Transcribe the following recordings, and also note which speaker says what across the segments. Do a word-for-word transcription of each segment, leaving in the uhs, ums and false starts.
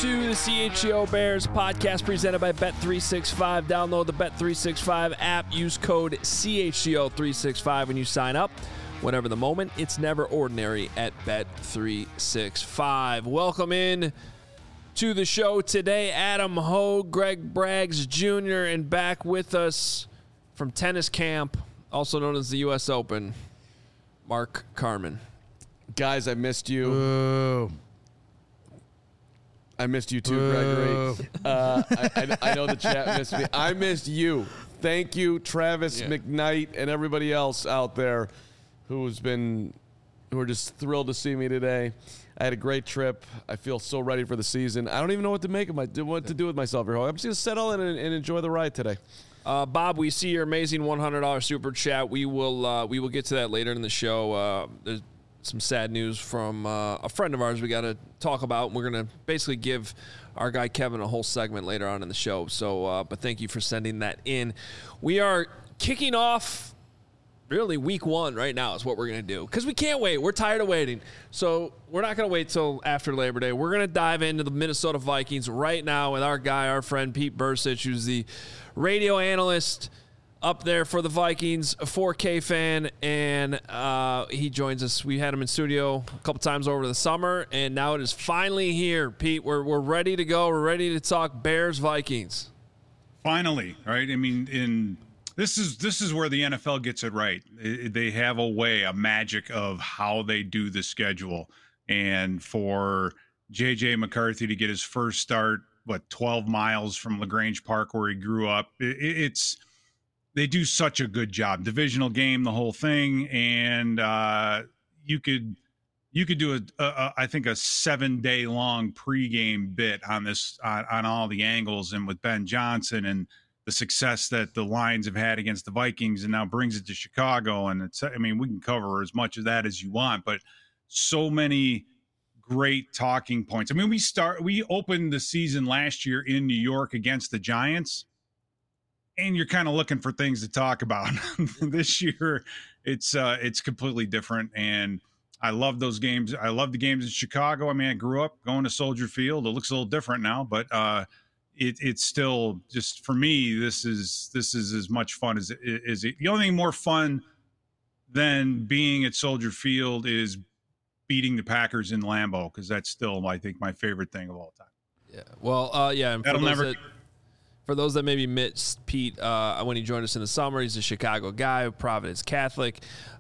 Speaker 1: to the C H G O Bears podcast presented by Bet three sixty-five. Download the Bet three sixty-five app. Use code C H G O three sixty-five when you sign up. Whatever the moment, it's never ordinary at Bet three sixty-five. Welcome in to the show today. Adam Hogue, Greg Braggs Junior, and back with us from tennis camp, also known as the U S Open, Mark Carman.
Speaker 2: Guys, I missed you.
Speaker 3: Ooh.
Speaker 2: I missed you too, Gregory. Uh, I, I, I know the chat missed me. I missed you. Thank you, Travis
Speaker 1: Yeah.
Speaker 2: McKnight, and everybody else out there who's been, who are just thrilled to see me today. I had a great trip. I feel so ready for the season. I don't even know what to make of my, what to do with myself here. I'm just gonna settle in and, and enjoy the ride today.
Speaker 1: Uh, Bob, we see your amazing one hundred dollars super chat. We will uh, we will get to that later in the show. Uh, there's some sad news from uh, a friend of ours we got to talk about. We're going to basically give our guy Kevin a whole segment later on in the show. So, uh, but thank you for sending that in. We are kicking off really week one right now is what we're going to do because we can't wait. We're tired of waiting. So we're not going to wait till after Labor Day. We're going to dive into the Minnesota Vikings right now with our guy, our friend Pete Bursich, who's the radio analyst up there for the Vikings, a four K fan, and uh, he joins us. We had him in studio a couple times over the summer, and now it is finally here. Pete, we're we're ready to go. We're ready to talk Bears Vikings.
Speaker 4: Finally, right? I mean, in this is this is where the N F L gets it right. It, they have a way, a magic of how they do the schedule, and for J J McCarthy to get his first start, what twelve miles from LaGrange Park where he grew up, it, it's. They do such a good job. Divisional game, the whole thing, and uh, you could you could do a, a, a I think a seven day long pregame bit on this on, on all the angles, and with Ben Johnson and the success that the Lions have had against the Vikings, and now brings it to Chicago. And it's I mean we can cover as much of that as you want, but so many great talking points. I mean we start we opened the season last year in New York against the Giants. And you're kind of looking for things to talk about. This year, it's uh, it's completely different, and I love those games. I love the games in Chicago. I mean, I grew up going to Soldier Field. It looks a little different now, but uh, it, it's still just for me. This is this is as much fun as is it. The only thing more fun than being at Soldier Field is beating the Packers in Lambeau, because that's still, I think, my favorite thing of all time.
Speaker 1: Yeah. Well, uh, yeah. And
Speaker 4: That'll never.
Speaker 1: That- For those that maybe missed Pete, uh, when he joined us in the summer, he's a Chicago guy, Providence Catholic.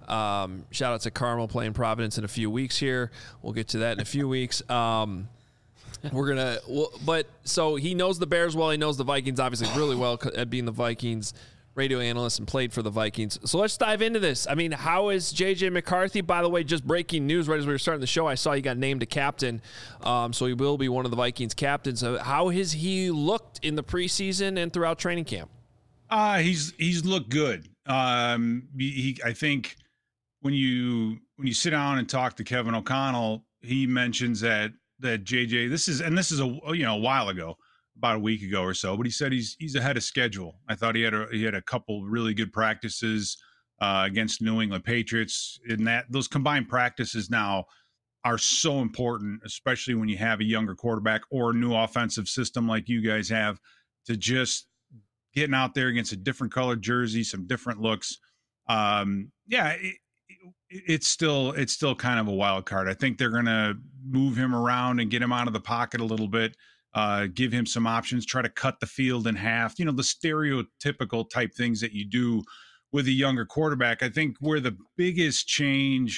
Speaker 1: Um, shout out to Carmel playing Providence in a few weeks here. We'll get to that in a few weeks. Um, we're gonna, well, but so he knows the Bears well. He knows the Vikings obviously really well at being the Vikings radio analyst and played for the Vikings. So let's dive into this. I mean, how is J J McCarthy? By the way, just breaking news right as we were starting the show, I saw he got named a captain. Um, so he will be one of the Vikings captains. So how has he looked in the preseason and throughout training camp?
Speaker 4: Uh, he's he's looked good. Um, he, I think when you when you sit down and talk to Kevin O'Connell, he mentions that that J J. This is and this is a you know a while ago. About a week ago or so, but he said he's he's ahead of schedule. I thought he had a he had a couple really good practices uh, against New England Patriots. In that those combined practices now are so important, especially when you have a younger quarterback or a new offensive system like you guys have, to just getting out there against a different colored jersey, some different looks. Um, yeah, it, it, it's still it's still kind of a wild card. I think they're going to move him around and get him out of the pocket a little bit. Uh, give him some options, try to cut the field in half, you know, the stereotypical type things that you do with a younger quarterback. I think where the biggest change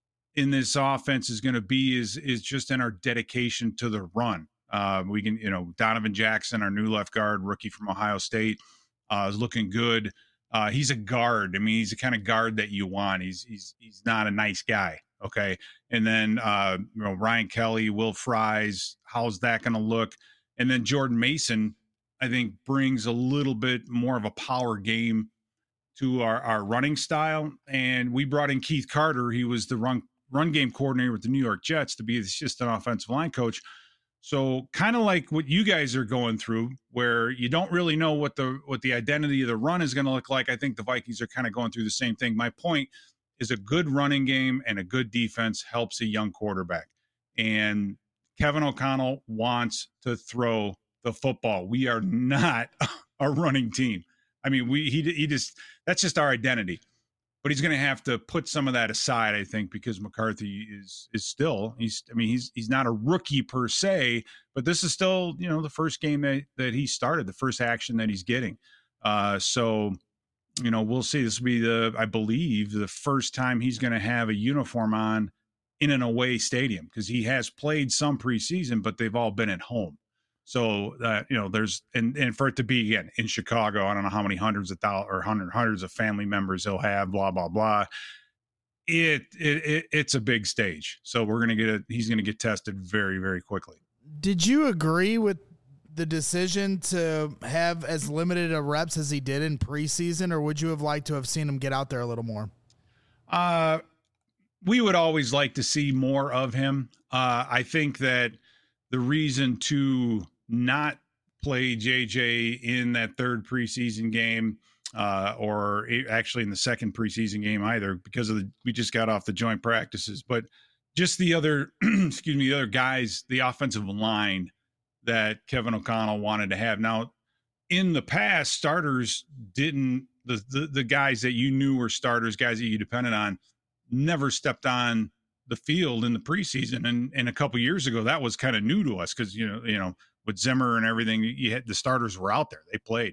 Speaker 4: in this offense is going to be is is just in our dedication to the run. Uh, we can, you know, Donovan Jackson, our new left guard, rookie from Ohio State, uh, is looking good. Uh, he's a guard. I mean, he's the kind of guard that you want. He's he's he's not a nice guy. Okay. And then, uh, you know, Ryan Kelly, Will Fries, how's that going to look? And then Jordan Mason, I think, brings a little bit more of a power game to our, our running style. And we brought in Keith Carter. He was the run, run game coordinator with the New York Jets to be the assistant offensive line coach. So kind of like what you guys are going through, where you don't really know what the what the identity of the run is going to look like. I think the Vikings are kind of going through the same thing. My point is a good running game and a good defense helps a young quarterback. And Kevin O'Connell wants to throw the football. We are not a running team. I mean, we he he just that's just our identity. But he's going to have to put some of that aside, I think, because McCarthy is is still he's I mean he's he's not a rookie per se, but this is still, you know, the first game that, that he started, the first action that he's getting. Uh, so, you know, we'll see. This will be the I believe the first time he's going to have a uniform on in an away stadium, because he has played some preseason, but they've all been at home. So, uh, you know, there's and, and for it to be, again, in Chicago, I don't know how many hundreds of thousands or hundred, hundreds of family members he'll have, blah, blah, blah. It, it, it It's a big stage. So we're going to get it. He's going to get tested very, very quickly.
Speaker 3: Did you agree with the decision to have as limited a reps as he did in preseason, or would you have liked to have seen him get out there a little more?
Speaker 4: Uh, we would always like to see more of him. Uh, I think that the reason to not play J J in that third preseason game, uh, or actually in the second preseason game either, because of the, we just got off the joint practices, but just the other, excuse me, the other guys, the offensive line that Kevin O'Connell wanted to have. Now, in the past, starters didn't, the, the, the guys that you knew were starters, guys that you depended on, never stepped on the field in the preseason. And, and a couple years ago, that was kind of new to us because, you know, you know, with Zimmer and everything, you had the starters were out there, they played.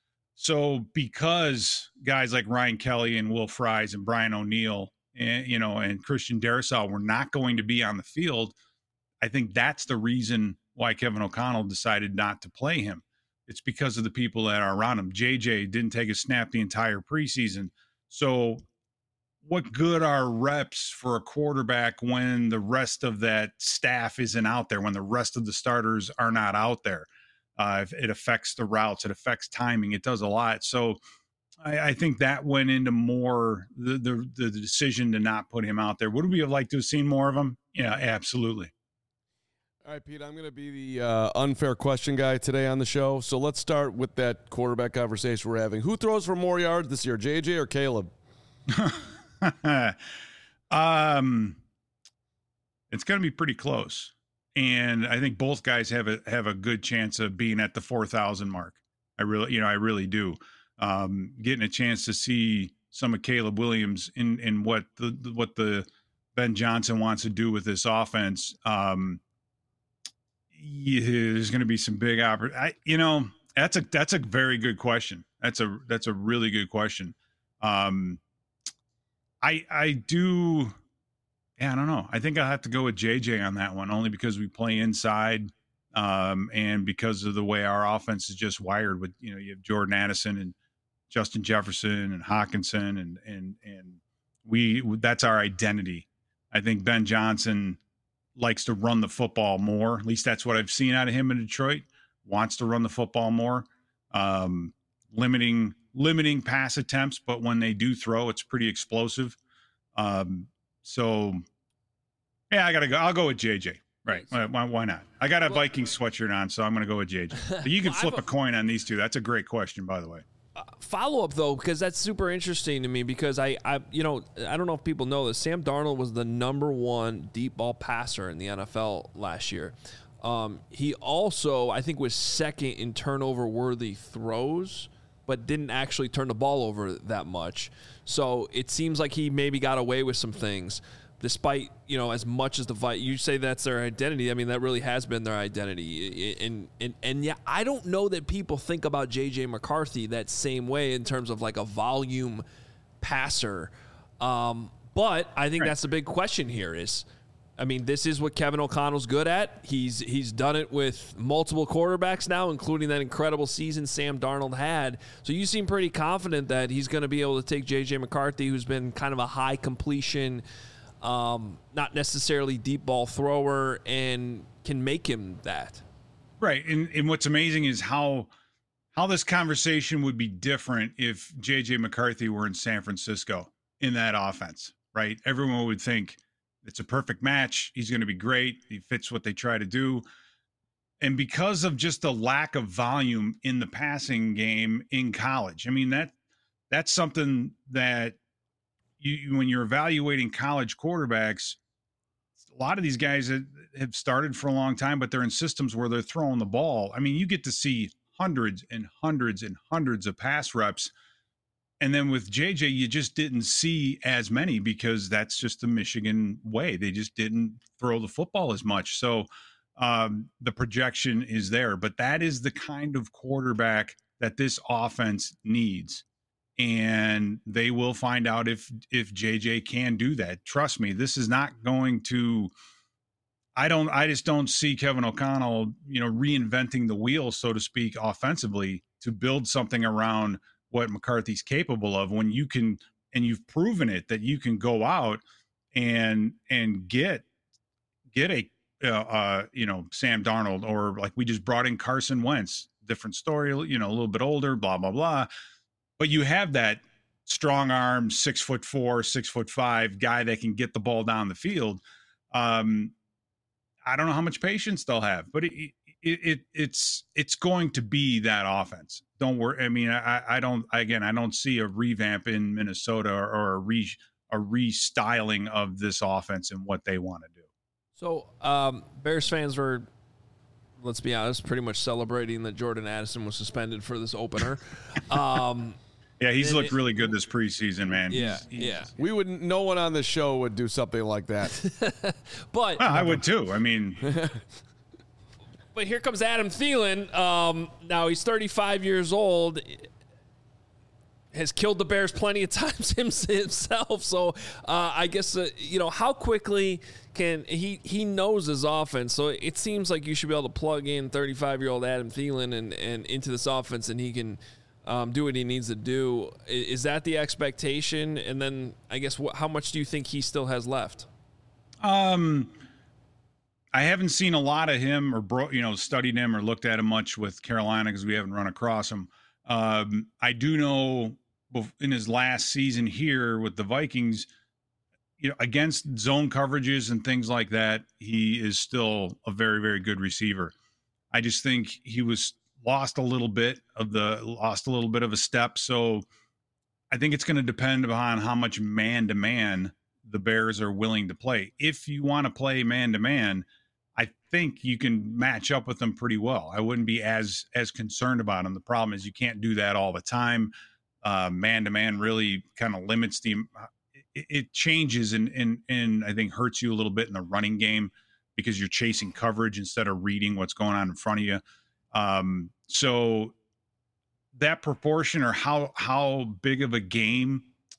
Speaker 4: So because guys like Ryan Kelly and Will Fries and Brian O'Neill and, you know, and Christian Darrisaw were not going to be on the field, I think that's the reason why Kevin O'Connell decided not to play him. It's because of the people that are around him. J J didn't take a snap the entire preseason. So what good are reps for a quarterback when the rest of that staff isn't out there, when the rest of the starters are not out there? Uh, it affects the routes. It affects timing. It does a lot. So I, I think that went into more the, the the decision to not put him out there. Would we have liked to have seen more of him? Yeah, absolutely.
Speaker 2: All right, Pete, I'm going to be the uh, unfair question guy today on the show. So let's start with that quarterback conversation we're having. Who throws for more yards this year, J J or Caleb?
Speaker 4: um, it's going to be pretty close, and I think both guys have a have a good chance of being at the four thousand mark. I really, you know, I really do. Um, getting a chance to see some of Caleb Williams in in what the what the Ben Johnson wants to do with this offense. Um, yeah, there's going to be some big opportunities. You know, that's a that's a very good question. That's a that's a really good question. Um, I I do, yeah, I don't know. I think I'll have to go with J J on that one, only because we play inside, um, and because of the way our offense is just wired. With, you know, you have Jordan Addison and Justin Jefferson and Hawkinson, and and and we that's our identity. I think Ben Johnson likes to run the football more. At least that's what I've seen out of him in Detroit. Wants to run the football more, um, limiting. limiting pass attempts, but when they do throw, it's pretty explosive. Um, so yeah, I gotta go. I'll go with J J. Right. Why, why not? I got a well, Vikings sweatshirt on, so I'm going to go with J J. You can well, flip a, a coin on these two. That's a great question, by the way.
Speaker 1: Uh, follow up though, because that's super interesting to me, because I, I, you know, I don't know if people know this. Sam Darnold was the number one deep ball passer in the N F L last year. Um, he also, I think, was second in turnover worthy throws, but didn't actually turn the ball over that much. So it seems like he maybe got away with some things, despite, you know, as much as the fight, you say that's their identity. I mean, that really has been their identity. And, and, and yeah, I don't know that people think about J J McCarthy that same way in terms of like a volume passer. Um, but I think right. that's the big question here is, I mean, this is what Kevin O'Connell's good at. He's he's done it with multiple quarterbacks now, including that incredible season Sam Darnold had. So you seem pretty confident that he's going to be able to take J J McCarthy, who's been kind of a high completion, um, not necessarily deep ball thrower, and can make him that.
Speaker 4: Right. And, and what's amazing is how how this conversation would be different if J J McCarthy were in San Francisco in that offense, right? Everyone would think, it's a perfect match. He's going to be great. He fits what they try to do. And because of just the lack of volume in the passing game in college, I mean, that that's something that you, when you're evaluating college quarterbacks, a lot of these guys that have started for a long time, but they're in systems where they're throwing the ball. I mean, you get to see hundreds and hundreds and hundreds of pass reps. And then with J J, you just didn't see as many because that's just the Michigan way. They just didn't throw the football as much. So um, the projection is there. But that is the kind of quarterback that this offense needs. And they will find out if if J J can do that. Trust me, this is not going to I don't I just don't see Kevin O'Connell, you know, reinventing the wheel, so to speak, offensively to build something around what McCarthy's capable of when you can, and you've proven it, that you can go out and and get get a uh, uh, you know, Sam Darnold, or like we just brought in Carson Wentz, different story, you know, a little bit older, blah blah blah, but you have that strong arm, six foot four, six foot five guy that can get the ball down the field. Um, I don't know how much patience they'll have, but it, it, it it's it's going to be that offense. Don't worry. I mean, I, I don't. Again, I don't see a revamp in Minnesota or, or a re a restyling of this offense and what they want to do.
Speaker 1: So, um, Bears fans were, let's be honest, pretty much celebrating that Jordan Addison was suspended for this opener. um,
Speaker 4: yeah, he's looked
Speaker 1: it,
Speaker 4: really good this preseason, man.
Speaker 1: Yeah,
Speaker 4: he's, he's,
Speaker 1: yeah.
Speaker 2: We wouldn't. No one on the show would do something like that.
Speaker 1: but
Speaker 4: well, I would too. I mean.
Speaker 1: But here comes Adam Thielen. Um, now he's thirty-five years old, has killed the Bears plenty of times himself. So uh, I guess, uh, you know, how quickly can he, he knows his offense. So it seems like you should be able to plug in thirty-five-year-old Adam Thielen and, and into this offense, and he can um, do what he needs to do. Is that the expectation? And then I guess wh- how much do you think he still has left?
Speaker 4: Um. I haven't seen a lot of him or, bro, you know, studied him or looked at him much with Carolina because we haven't run across him. Um, I do know in his last season here with the Vikings, you know, against zone coverages and things like that, he is still a very, very good receiver. I just think he was lost a little bit of the lost a little bit of a step. So I think it's going to depend upon how much man to man the Bears are willing to play. If you want to play man to man, I think you can match up with them pretty well. I wouldn't be as as concerned about them. The problem is you can't do that all the time. Uh, man-to-man really kind of limits the it, it changes and, and, and I think hurts you a little bit in the running game because you're chasing coverage instead of reading what's going on in front of you. Um, so that proportion or how how big of a game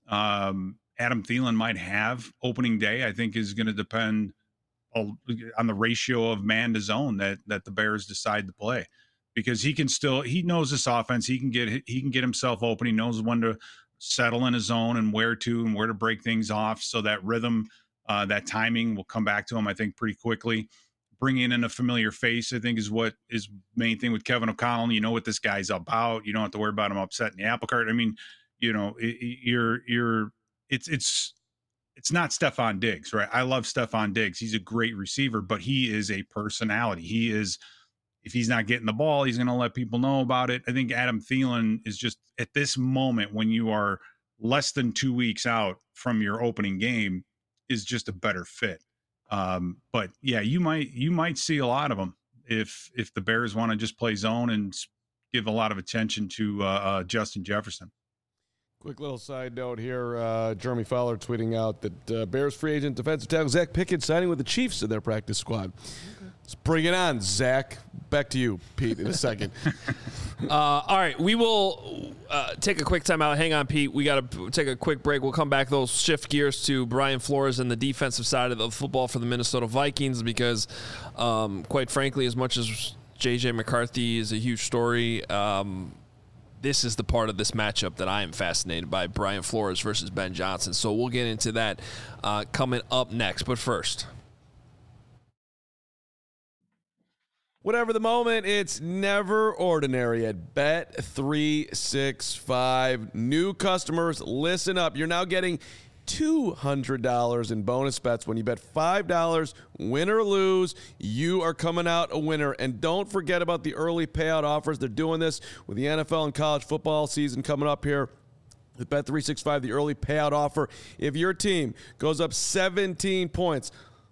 Speaker 4: um, Adam Thielen might have opening day, I think is going to depend on the ratio of man to zone that that the Bears decide to play, because he can still he knows this offense. He can get he can get himself open. He knows when to settle in his zone and where to and where to break things off. So that rhythm, uh, that timing will come back to him, I think, pretty quickly. Bringing in a familiar face, I think, is what is main thing with Kevin O'Connell. You know what this guy's about. You don't have to worry about him upsetting the apple cart. I mean, you know, it, you're you're it's it's. It's not Stephon Diggs, right? I love Stephon Diggs. He's a great receiver, but he is a personality. He is, if he's not getting the ball, he's going to let people know about it. I think Adam Thielen is just at this moment when you are less than two weeks out from your opening game is just a better fit. Um, but yeah, you might, you might see a lot of them if, if the Bears want to just play zone and give a lot of attention to uh, uh, Justin Jefferson.
Speaker 2: Quick little side note here. Uh, Jeremy Fowler tweeting out that uh, Bears free agent defensive tackle Zach Pickett signing with the Chiefs in their practice squad. Okay. Let's bring it on, Zach. Back to you, Pete, in a second.
Speaker 1: uh, all right, we will uh, take a quick time out. Hang on, Pete. We got to take a quick break. We'll come back. They'll shift gears to Brian Flores and the defensive side of the football for the Minnesota Vikings because, um, quite frankly, as much as J J McCarthy is a huge story, um, this is the part of this matchup that I am fascinated by, Brian Flores versus Ben Johnson. So we'll get into that uh, coming up next. But first,
Speaker 2: whatever the moment, it's never ordinary at Bet three sixty-five. New customers, listen up. You're now getting two hundred dollars in bonus bets when you bet five dollars, win or lose. You are coming out a winner. And don't forget about the early payout offers. They're doing this with the N F L and college football season coming up here. With Bet three sixty-five, the early payout offer. If your team goes up seventeen points,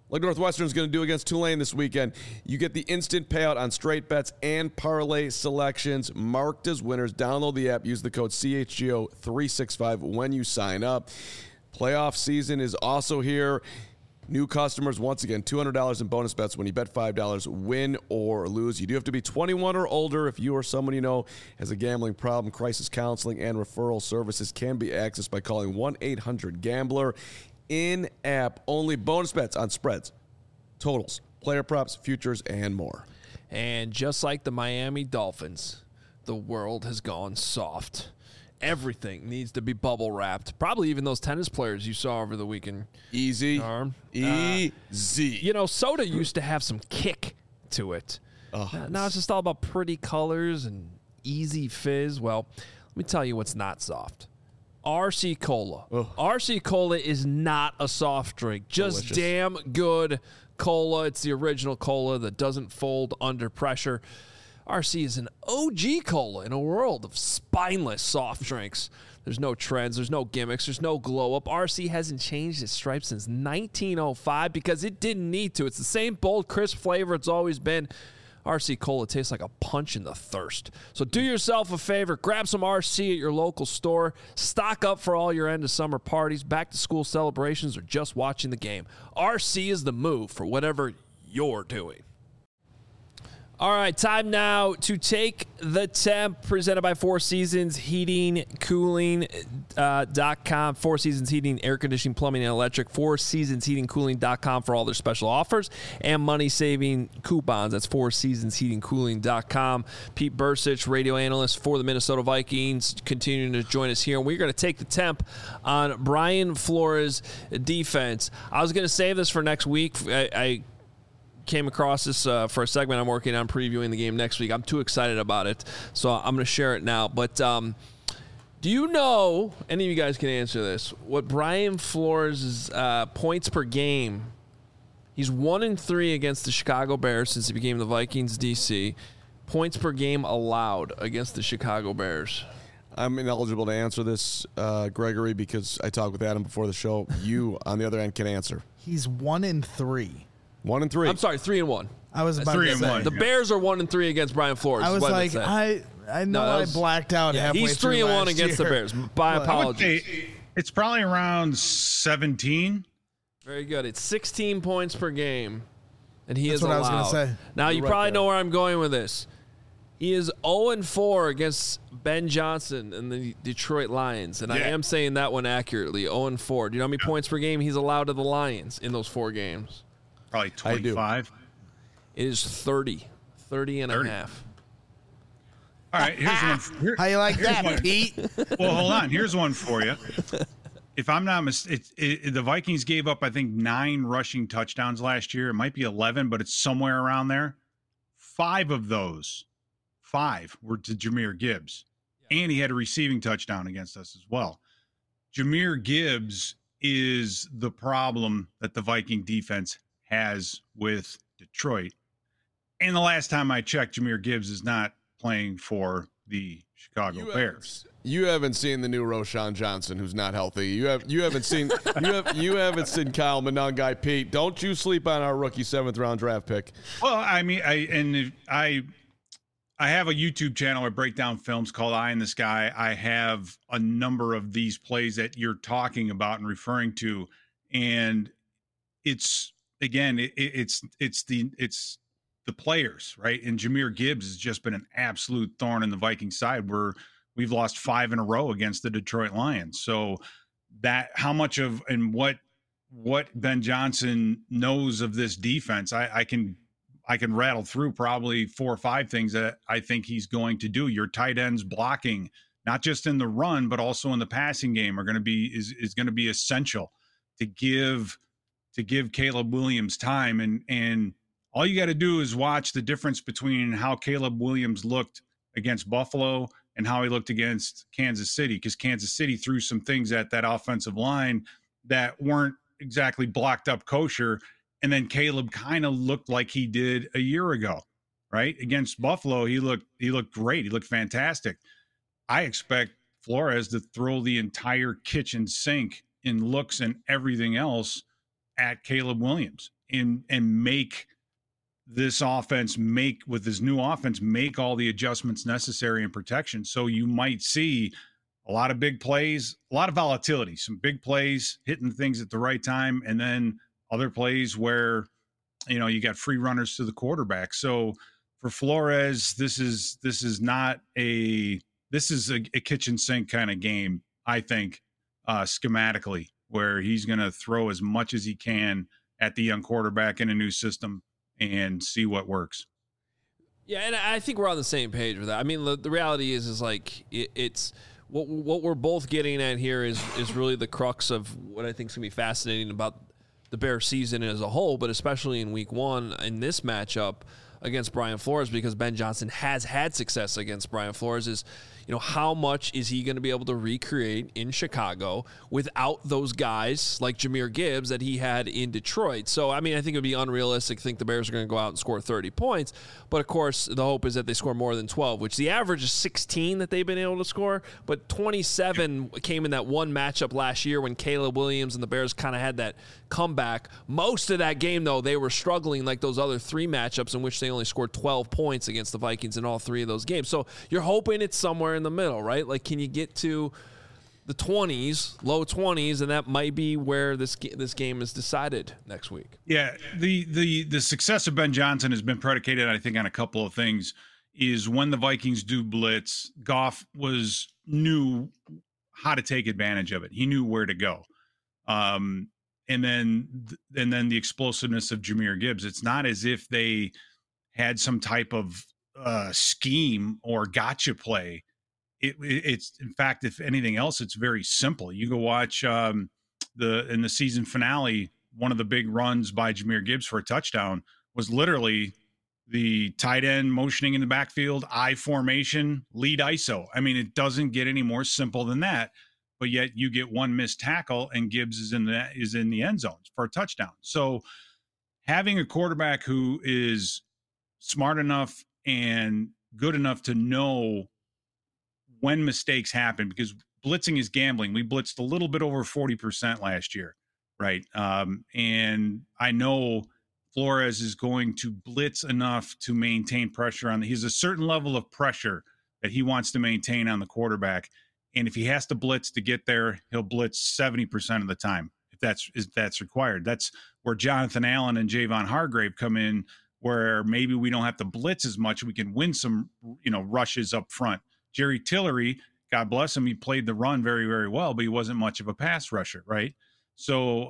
Speaker 2: like Northwestern's going to do against Tulane this weekend. You get the instant payout on straight bets and parlay selections marked as winners. Download the app. Use the code C H G O three sixty-five when you sign up. Playoff season is also here. New customers, once again, two hundred dollars in bonus bets when you bet five dollars, win or lose. You do have to be twenty-one or older. If you or someone you know has a gambling problem, crisis counseling and referral services can be accessed by calling one eight hundred gambler. In-app only. Bonus bets on spreads, totals, player props, futures, and more.
Speaker 1: And just like the Miami Dolphins, the world has gone soft. Everything needs to be bubble wrapped. Probably even those tennis players you saw over the weekend.
Speaker 2: Easy.
Speaker 1: Arm.
Speaker 2: Easy.
Speaker 1: Uh, you know, soda used to have some kick to it.
Speaker 2: Oh,
Speaker 1: now, now it's just all about pretty colors and easy fizz. Well, let me tell you what's not soft. R C Cola.
Speaker 2: Ugh.
Speaker 1: R C Cola is not a soft drink. Just
Speaker 2: Delicious.
Speaker 1: damn good cola. It's the original cola that doesn't fold under pressure. R C is an O G cola in a world of spineless soft drinks. There's no trends. There's no gimmicks. There's no glow up. R C hasn't changed its stripes since nineteen oh five because it didn't need to. It's the same bold, crisp flavor it's always been. R C Cola tastes like a punch in the thirst. So do yourself a favor. Grab some R C at your local store. Stock up for all your end of summer parties, back to school celebrations, or just watching the game. R C is the move for whatever you're doing. All right, time now to take the temp, presented by Four Seasons Heating, Cooling uh, dot com. Four Seasons Heating, Air Conditioning, Plumbing, and Electric. Four Seasons Heating, Cooling dot com for all their special offers and money-saving coupons. That's Four Seasons Heating, Cooling dot com. Pete Bursich, radio analyst for the Minnesota Vikings, continuing to join us here. And we're going to take the temp on Brian Flores' defense. I was going to save this for next week. I... I came across this uh, for a segment I'm working on previewing the game next week. I'm too excited about it, so I'm going to share it now. But um, do you know, any of you guys can answer this, what Brian Flores' uh, points per game, he's one and three against the Chicago Bears since he became the Vikings D C. Points per game allowed against the Chicago Bears.
Speaker 2: I'm ineligible to answer this, uh, Gregory, because I talked with Adam before the show. You, on the other end, can answer.
Speaker 3: He's one and three.
Speaker 2: One and three.
Speaker 1: I'm sorry, three and one.
Speaker 3: I was about
Speaker 4: Three
Speaker 3: to
Speaker 4: and
Speaker 3: say.
Speaker 4: one.
Speaker 1: The Bears are one and three against Brian Flores.
Speaker 3: I
Speaker 1: is
Speaker 3: was
Speaker 1: what
Speaker 3: like,
Speaker 1: saying.
Speaker 3: I I know
Speaker 1: No, that
Speaker 3: I
Speaker 1: was-
Speaker 3: blacked out
Speaker 1: Yeah,
Speaker 3: halfway
Speaker 1: he's
Speaker 3: through
Speaker 1: three and one
Speaker 3: last
Speaker 1: against
Speaker 3: year.
Speaker 1: the Bears. My
Speaker 3: But-
Speaker 4: I would
Speaker 1: apologies.
Speaker 4: say it's probably around seventeen.
Speaker 1: Very good. It's sixteen points per game, and he
Speaker 3: That's
Speaker 1: is
Speaker 3: what I
Speaker 1: allowed.
Speaker 3: was gonna say.
Speaker 1: Now, you
Speaker 2: You're right
Speaker 1: probably
Speaker 2: there.
Speaker 1: know where I'm going with this. He is oh and four against Ben Johnson and the Detroit Lions, and I
Speaker 4: Yeah.
Speaker 1: am saying that one accurately, oh and four. Do you know how many points per game he's allowed to the Lions in those four games?
Speaker 4: Probably
Speaker 2: I do.
Speaker 4: twenty-five.
Speaker 1: It is thirty. thirty and
Speaker 4: thirty.
Speaker 1: a half.
Speaker 4: All right, here's one. Here,
Speaker 3: How you like
Speaker 4: here's
Speaker 3: that,
Speaker 4: one.
Speaker 3: Pete?
Speaker 4: Well, hold on. Here's one for you. If I'm not mistaken, it, it, the Vikings gave up, I think, nine rushing touchdowns last year. It might be eleven, but it's somewhere around there. Five of those, five were to Jahmyr Gibbs. And he had a receiving touchdown against us as well. Jahmyr Gibbs is the problem that the Viking defense has with Detroit. And the last time I checked, Jahmyr Gibbs is not playing for the Chicago
Speaker 2: You
Speaker 4: Bears.
Speaker 2: haven't, you haven't seen the new Roshan Johnson, who's not healthy. You have you haven't seen you have you haven't seen Kyle Monangai. Pete, don't you sleep on our rookie seventh round draft pick.
Speaker 4: Well, I mean, I and if I I have a YouTube channel where I break down films called Eye in the Sky. I have a number of these plays that you're talking about and referring to, and it's again, it, it's it's the it's the players, right? And Jahmyr Gibbs has just been an absolute thorn in the Viking side where we've lost five in a row against the Detroit Lions. So that how much of and what what Ben Johnson knows of this defense, I, I can I can rattle through probably four or five things that I think he's going to do. Your tight ends blocking, not just in the run, but also in the passing game, are going to be is is going to be essential to give to give Caleb Williams time. And and all you got to do is watch the difference between how Caleb Williams looked against Buffalo and how he looked against Kansas City, because Kansas City threw some things at that offensive line that weren't exactly blocked up kosher. And then Caleb kind of looked like he did a year ago, right? Against Buffalo, he looked he looked great. He looked fantastic. I expect Flores to throw the entire kitchen sink in looks and everything else at Caleb Williams. and and make this offense make with this new offense make all the adjustments necessary in protection. So you might see a lot of big plays, a lot of volatility, some big plays hitting things at the right time, and then other plays where, you know, you got free runners to the quarterback. So for Flores, this is this is not a this is a, a kitchen sink kind of game, I think, uh, schematically, where he's going to throw as much as he can at the young quarterback in a new system and see what works.
Speaker 1: Yeah, and I think we're on the same page with that. I mean, the, the reality is, is like it, it's what what we're both getting at here is is really the crux of what I think is going to be fascinating about the Bears season as a whole, but especially in week one in this matchup against Brian Flores, because Ben Johnson has had success against Brian Flores, is, you know, how much is he going to be able to recreate in Chicago without those guys like Jahmyr Gibbs that he had in Detroit? So, I mean, I think it would be unrealistic to think the Bears are going to go out and score thirty points. But, of course, the hope is that they score more than twelve, which the average is sixteen that they've been able to score. But twenty-seven came in that one matchup last year when Caleb Williams and the Bears kind of had that comeback. Most of that game, though, they were struggling like those other three matchups in which they only scored twelve points against the Vikings in all three of those games. So you're hoping it's somewhere in the middle, right? Like, can you get to the twenties, low twenties, and that might be where this this game is decided next week.
Speaker 4: Yeah, the the the success of Ben Johnson has been predicated, I think, on a couple of things. Is when the Vikings do blitz, Goff was knew how to take advantage of it. He knew where to go. Um, and then and then the explosiveness of Jahmyr Gibbs. It's not as if they had some type of uh, scheme or gotcha play. It, it's in fact, if anything else, it's very simple. You go watch um, the in the season finale. One of the big runs by Jahmyr Gibbs for a touchdown was literally the tight end motioning in the backfield, I formation, lead I S O. I mean, it doesn't get any more simple than that. But yet you get one missed tackle and Gibbs is in the is in the end zone for a touchdown. So having a quarterback who is smart enough and good enough to know when mistakes happen, because blitzing is gambling. We blitzed a little bit over forty percent last year, right? Um, and I know Flores is going to blitz enough to maintain pressure on the, he's a certain level of pressure that he wants to maintain on the quarterback. And if he has to blitz to get there, he'll blitz seventy percent of the time if that's if that's required. That's where Jonathan Allen and Javon Hargrave come in, where maybe we don't have to blitz as much. We can win some, you know, rushes up front. Jerry Tillery, God bless him, he played the run very, very well, but he wasn't much of a pass rusher, right? So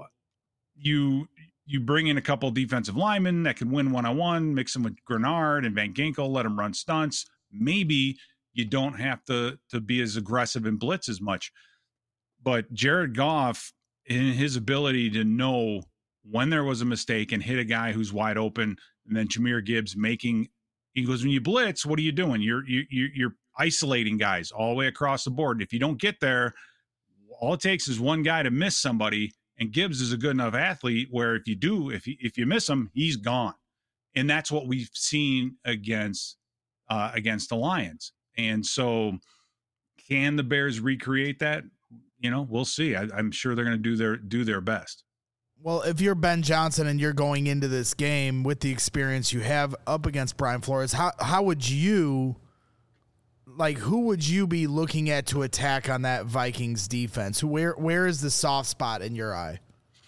Speaker 4: you you bring in a couple of defensive linemen that can win one-on-one, mix them with Grenard and Van Ginkel, let them run stunts. Maybe you don't have to, to be as aggressive and blitz as much. But Jared Goff, in his ability to know when there was a mistake and hit a guy who's wide open, and then Jahmyr Gibbs making – he goes, when you blitz, what are you doing? You're you, You're isolating guys all the way across the board. If you don't get there, all it takes is one guy to miss somebody, and Gibbs is a good enough athlete where if you do, if you, if you miss him, he's gone. And that's what we've seen against uh, against the Lions. And so can the Bears recreate that? You know, we'll see. I, I'm sure they're going to do their do their best.
Speaker 3: Well, if you're Ben Johnson and you're going into this game with the experience you have up against Brian Flores, how how would you – like, who would you be looking at to attack on that Vikings defense? Where where is the soft spot in your eye?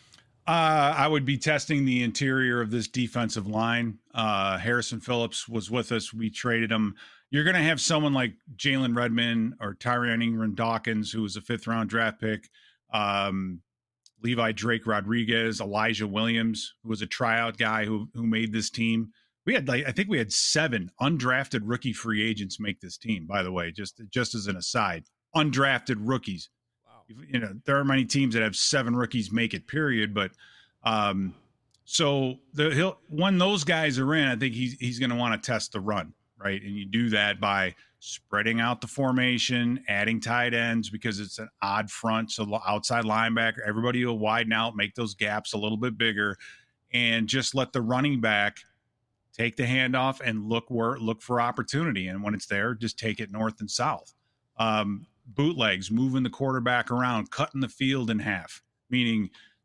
Speaker 4: Uh, I would be testing the interior of this defensive line. Uh, Harrison Phillips was with us. We traded him. You're going to have someone like Jalen Redmond or Tyrion Ingram-Dawkins, who was a fifth-round draft pick, um, Levi Drake Rodriguez, Elijah Williams, who was a tryout guy who who made this team. We had, like, I think we had seven undrafted rookie free agents make this team, by the way, just, just as an aside. Undrafted rookies. Wow. You know, there are many teams that have seven rookies make it, period. But um, so the he'll, when those guys are in, I think he's, he's going to want to test the run, right? And you do that by spreading out the formation, adding tight ends because it's an odd front. So outside linebacker, everybody will widen out, make those gaps a little bit bigger, and just let the running back take the handoff and look where look for opportunity. And when it's there, just take it north and south. Um, bootlegs, moving the quarterback around, cutting the field in half, meaning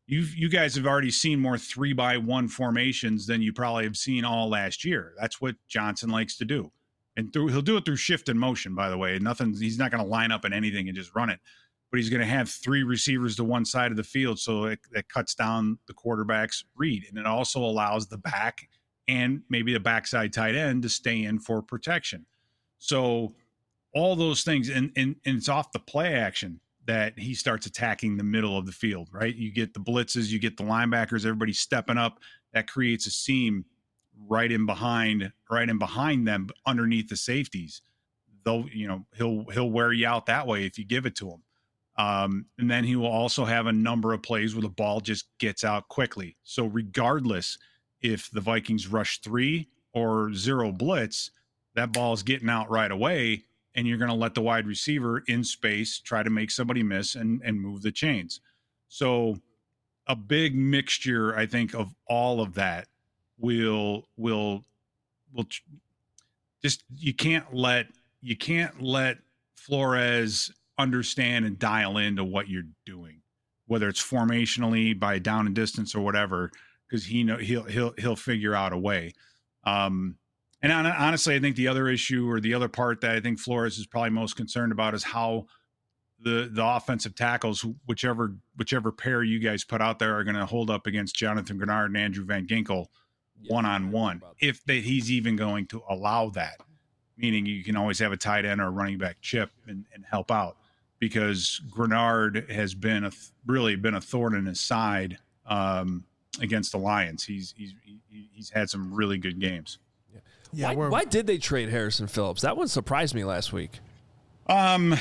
Speaker 4: You you guys have already seen more three by one formations than you probably have seen all last year. That's what Johnson likes to do, and through he'll do it through shift and motion. By the way, nothing. He's not going to line up in anything and just run it, but he's going to have three receivers to one side of the field, so it, it cuts down the quarterback's read, and it also allows the back and maybe the backside tight end to stay in for protection. So all those things, and and, and it's off the play action that he starts attacking the middle of the field, right? You get the blitzes, you get the linebackers, everybody stepping up. That creates a seam right in behind, right in behind them, underneath the safeties. Though, you know, he'll he'll wear you out that way if you give it to him. Um, and then he will also have a number of plays where the ball just gets out quickly. So regardless if the Vikings rush three or zero blitz, that ball is getting out right away. And you're going to let the wide receiver in space try to make somebody miss and, and move the chains. So a big mixture, I think, of all of that will will will just you can't let you can't let Flores understand and dial into what you're doing, whether it's formationally by down and distance or whatever, because he know he'll he'll he'll figure out a way. Um, And honestly, I think the other issue or the other part that I think Flores is probably most concerned about is how the the offensive tackles, whichever whichever pair you guys put out there, are going to hold up against Jonathan Grenard and Andrew Van Ginkel one on one. If they, he's even going to allow that, meaning you can always have a tight end or a running back chip and, and help out, because Grenard has been a really been a thorn in his side um, against the Lions. He's he's he's had some really good games.
Speaker 1: Yeah, why, why did they trade Harrison Phillips? That one surprised me last week.
Speaker 4: Um,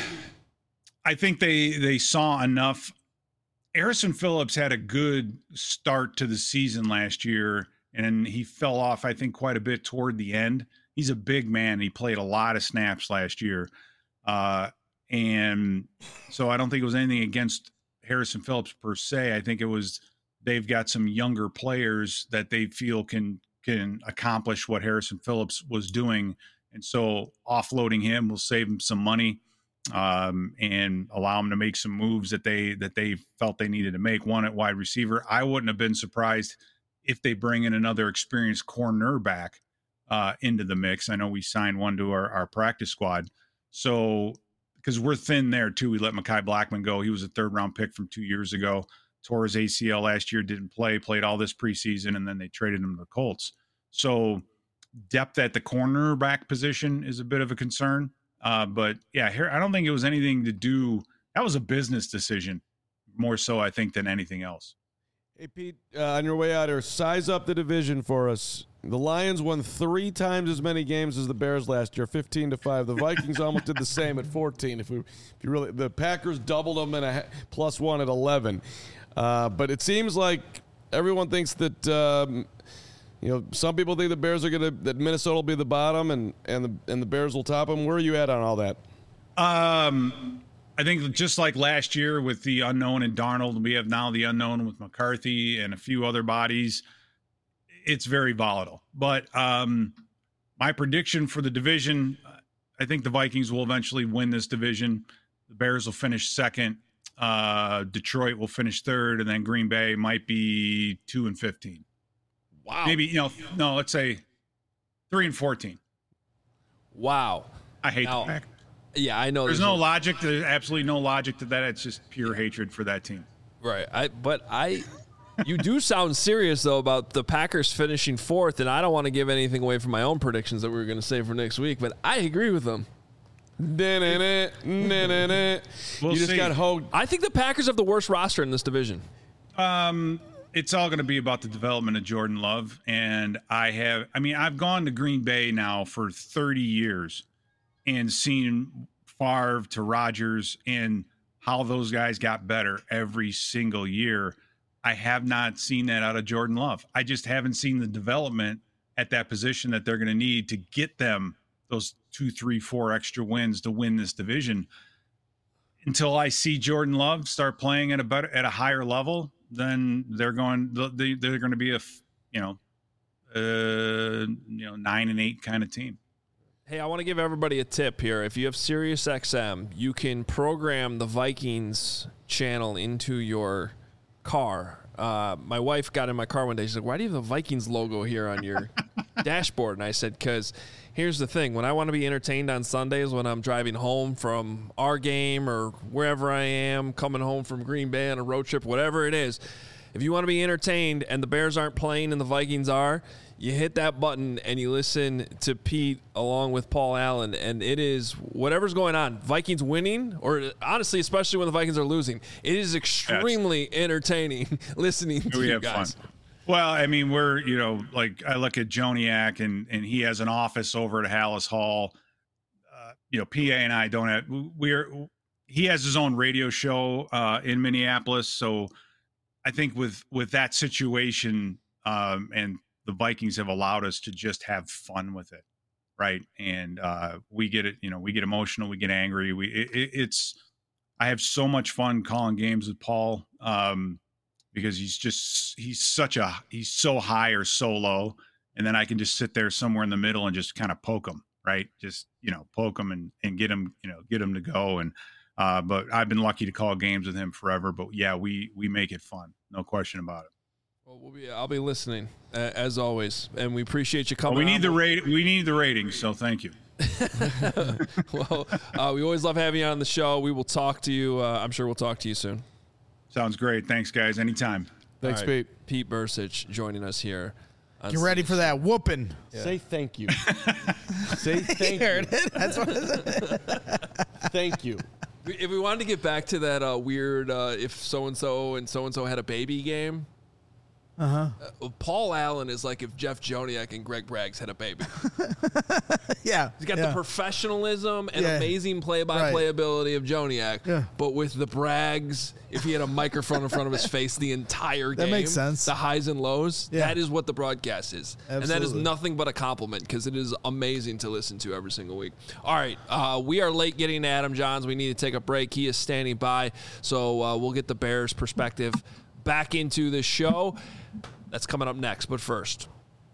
Speaker 4: I think they they saw enough. Harrison Phillips had a good start to the season last year, and he fell off, I think, quite a bit toward the end. He's a big man. He played a lot of snaps last year. Uh, and so I don't think it was anything against Harrison Phillips per se. I think it was they've got some younger players that they feel can – can accomplish what Harrison Phillips was doing. And so offloading him will save him some money um, and allow him to make some moves that they, that they felt they needed to make. One at wide receiver. I wouldn't have been surprised if they bring in another experienced cornerback uh, into the mix. I know we signed one to our, our practice squad. So, because we're thin there too. We let Mekhi Blackman go. He was a third round pick from two years ago. Tore his A C L last year, didn't play, played all this preseason, and then they traded him to the Colts. So depth at the cornerback position is a bit of a concern. Uh, but, yeah, here I don't think it was anything to do – that was a business decision more so, I think, than anything else.
Speaker 2: Hey, Pete, uh, on your way out here, size up the division for us. The Lions won three times as many games as the Bears last year, fifteen to five. The Vikings almost did the same at fourteen. If, we, if you really, the Packers doubled them and a plus one at eleven. Uh, but it seems like everyone thinks that um, you know some people think the Bears are going to that Minnesota will be the bottom and and the and the Bears will top them. Where are you at on all that?
Speaker 4: Um, I think just like last year with the unknown and Darnold, we have now the unknown with McCarthy and a few other bodies. It's very volatile. But um, my prediction for the division, I think the Vikings will eventually win this division. The Bears will finish second. Uh, Detroit will finish third, and then Green Bay might be two and fifteen.
Speaker 1: Wow.
Speaker 4: Maybe, you know, no, let's say three and fourteen.
Speaker 1: Wow.
Speaker 4: I hate
Speaker 1: now,
Speaker 4: the Packers.
Speaker 1: Yeah, I know.
Speaker 4: There's, there's no logic. There's absolutely no logic to that. It's just pure hatred for that team.
Speaker 1: Right. I. But I. You do sound serious, though, about the Packers finishing fourth, and I don't want to give anything away from my own predictions that we were going to say for next week, but I agree with them.
Speaker 2: we'll you just
Speaker 4: see.
Speaker 2: got hoed.
Speaker 1: I think the Packers have the worst roster in this division.
Speaker 4: Um, it's all going to be about the development of Jordan Love, and I have. I mean, I've gone to Green Bay now for thirty years, and seen Favre to Rodgers and how those guys got better every single year. I have not seen that out of Jordan Love. I just haven't seen the development at that position that they're going to need to get them those two, three, four extra wins to win this division. Until I see Jordan Love start playing at a better, at a higher level, then they're going, they, they're going to be a, you know, uh, you know, nine and eight kind of team.
Speaker 1: Hey, I want to give everybody a tip here. If you have Sirius X M, you can program the Vikings channel into your car. Uh, my wife got in my car one day. She's like, why do you have the Vikings logo here on your dashboard? And I said, because here's the thing. When I want to be entertained on Sundays when I'm driving home from our game or wherever I am, coming home from Green Bay on a road trip, whatever it is, if you want to be entertained and the Bears aren't playing and the Vikings are, you hit that button and you listen to Pete along with Paul Allen, and it is whatever's going on. Vikings winning, or honestly, especially when the Vikings are losing, it is extremely That's, entertaining listening to
Speaker 4: we
Speaker 1: you
Speaker 4: have
Speaker 1: guys.
Speaker 4: Fun. Well, I mean, we're, you know, like I look at Joniak and, and he has an office over at Hallis Hall. Uh, you know, P A and I don't have, we're, he has his own radio show uh, in Minneapolis. So I think with, with that situation um, and the Vikings have allowed us to just have fun with it. Right. And uh, we get it, you know, we get emotional, we get angry. We, it, it's, I have so much fun calling games with Paul. Um, because he's just, he's such a, he's so high or so low. And then I can just sit there somewhere in the middle and just kind of poke him, right? Just, you know, poke him and, and get him, you know, get him to go. And, uh, but I've been lucky to call games with him forever, but yeah, we, we make it fun. No question about it.
Speaker 1: Well, we'll be, I'll be listening uh, as always. And we appreciate you coming.
Speaker 4: Well, we need
Speaker 1: on.
Speaker 4: the rate. We need the ratings. So thank you.
Speaker 1: Well, uh, we always love having you on the show. We will talk to you. Uh, I'm sure we'll talk to you soon.
Speaker 4: Sounds great. Thanks, guys. Anytime.
Speaker 2: Thanks,
Speaker 1: right.
Speaker 2: Pete.
Speaker 1: Pete Bursich joining us here.
Speaker 3: Get ready for that whooping.
Speaker 2: Yeah. Say thank you. Say thank
Speaker 3: you.
Speaker 2: you.
Speaker 3: That's what it is.
Speaker 2: Thank you.
Speaker 1: If we wanted to get back to that uh, weird uh, if so-and-so and so-and-so had a baby game,
Speaker 3: uh-huh.
Speaker 1: uh, Paul Allen is like if Jeff Joniak and Greg Braggs had a baby.
Speaker 3: Yeah.
Speaker 1: He's got
Speaker 3: yeah.
Speaker 1: the professionalism and
Speaker 3: Yeah.
Speaker 1: amazing play-by-play
Speaker 3: Right.
Speaker 1: ability of Joniak,
Speaker 3: Yeah.
Speaker 1: but with the Braggs, if he had a microphone in front of his face the entire game,
Speaker 3: That makes sense.
Speaker 1: the highs and lows,
Speaker 3: Yeah.
Speaker 1: that is what the broadcast is. And that is
Speaker 3: Absolutely.
Speaker 1: nothing but a compliment because it is amazing to listen to every single week. All right, uh, we are late getting to Adam Johns. We need to take a break. He is standing by, so uh, we'll get the Bears' perspective back into the show. That's coming up next, but first.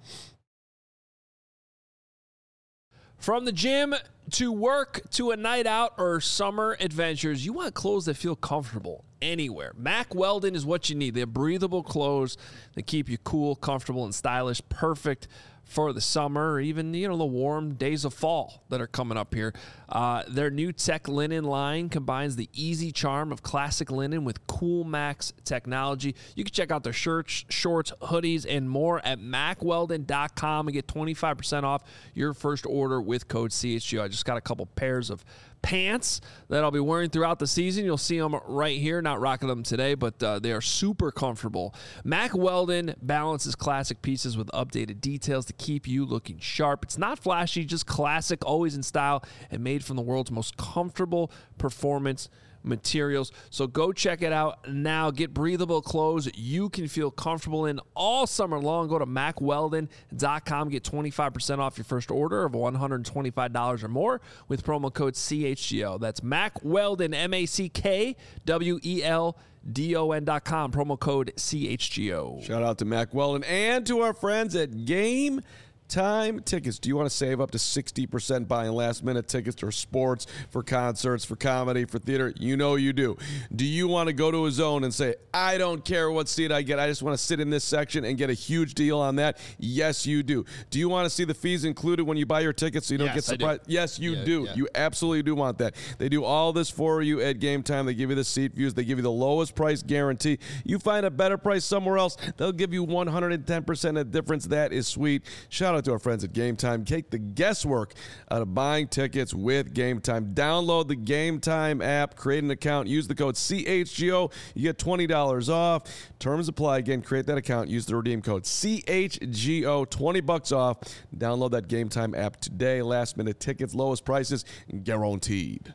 Speaker 1: From the gym to work to a night out or summer adventures, you want clothes that feel comfortable anywhere. Mack Weldon is what you need. They have breathable clothes that keep you cool, comfortable, and stylish. Perfect for the summer or even, you know, the warm days of fall that are coming up here. Uh, their new Tech Linen line combines the easy charm of classic linen with Cool Max technology. You can check out their shirts, shorts, hoodies, and more at mack weldon dot com and get twenty-five percent off your first order with code C H G O. I just got a couple pairs of pants that I'll be wearing throughout the season. You'll see them right here. Not rocking them today, but uh, they are super comfortable. Mack Weldon balances classic pieces with updated details to keep you looking sharp. It's not flashy, just classic, always in style, and made from the world's most comfortable performance materials. So go check it out now. Get breathable clothes you can feel comfortable in all summer long. Go to mack weldon dot com. Get twenty-five percent off your first order of one hundred twenty-five dollars or more with promo code C H G O. That's Mack Weldon, M A C K W E L D O N dot com. Promo code C H G O.
Speaker 2: Shout out to Mack Weldon and to our friends at Game Time Tickets. Do you want to save up to sixty percent buying last-minute tickets for sports, for concerts, for comedy, for theater? You know you do. Do you want to go to a zone and say, I don't care what seat I get, I just want to sit in this section and get a huge deal on that? Yes, you do. Do you want to see the fees included when you buy your tickets so you don't
Speaker 1: Yes,
Speaker 2: get surprised? Yes, you
Speaker 1: Yeah,
Speaker 2: do.
Speaker 1: yeah.
Speaker 2: You absolutely do want that. They do all this for you at Game Time. They give you the seat views. They give you the lowest price guarantee. You find a better price somewhere else, they'll give you one hundred ten percent of the difference. That is sweet. Shout out to our friends at Game Time. Take the guesswork out of buying tickets with Game Time. Download the Game Time app, create an account, use the code C H G O. You get twenty dollars off. Terms apply. Again, create that account, use the redeem code C H G O, twenty bucks off. Download that Game Time app today. Last minute tickets, lowest prices guaranteed.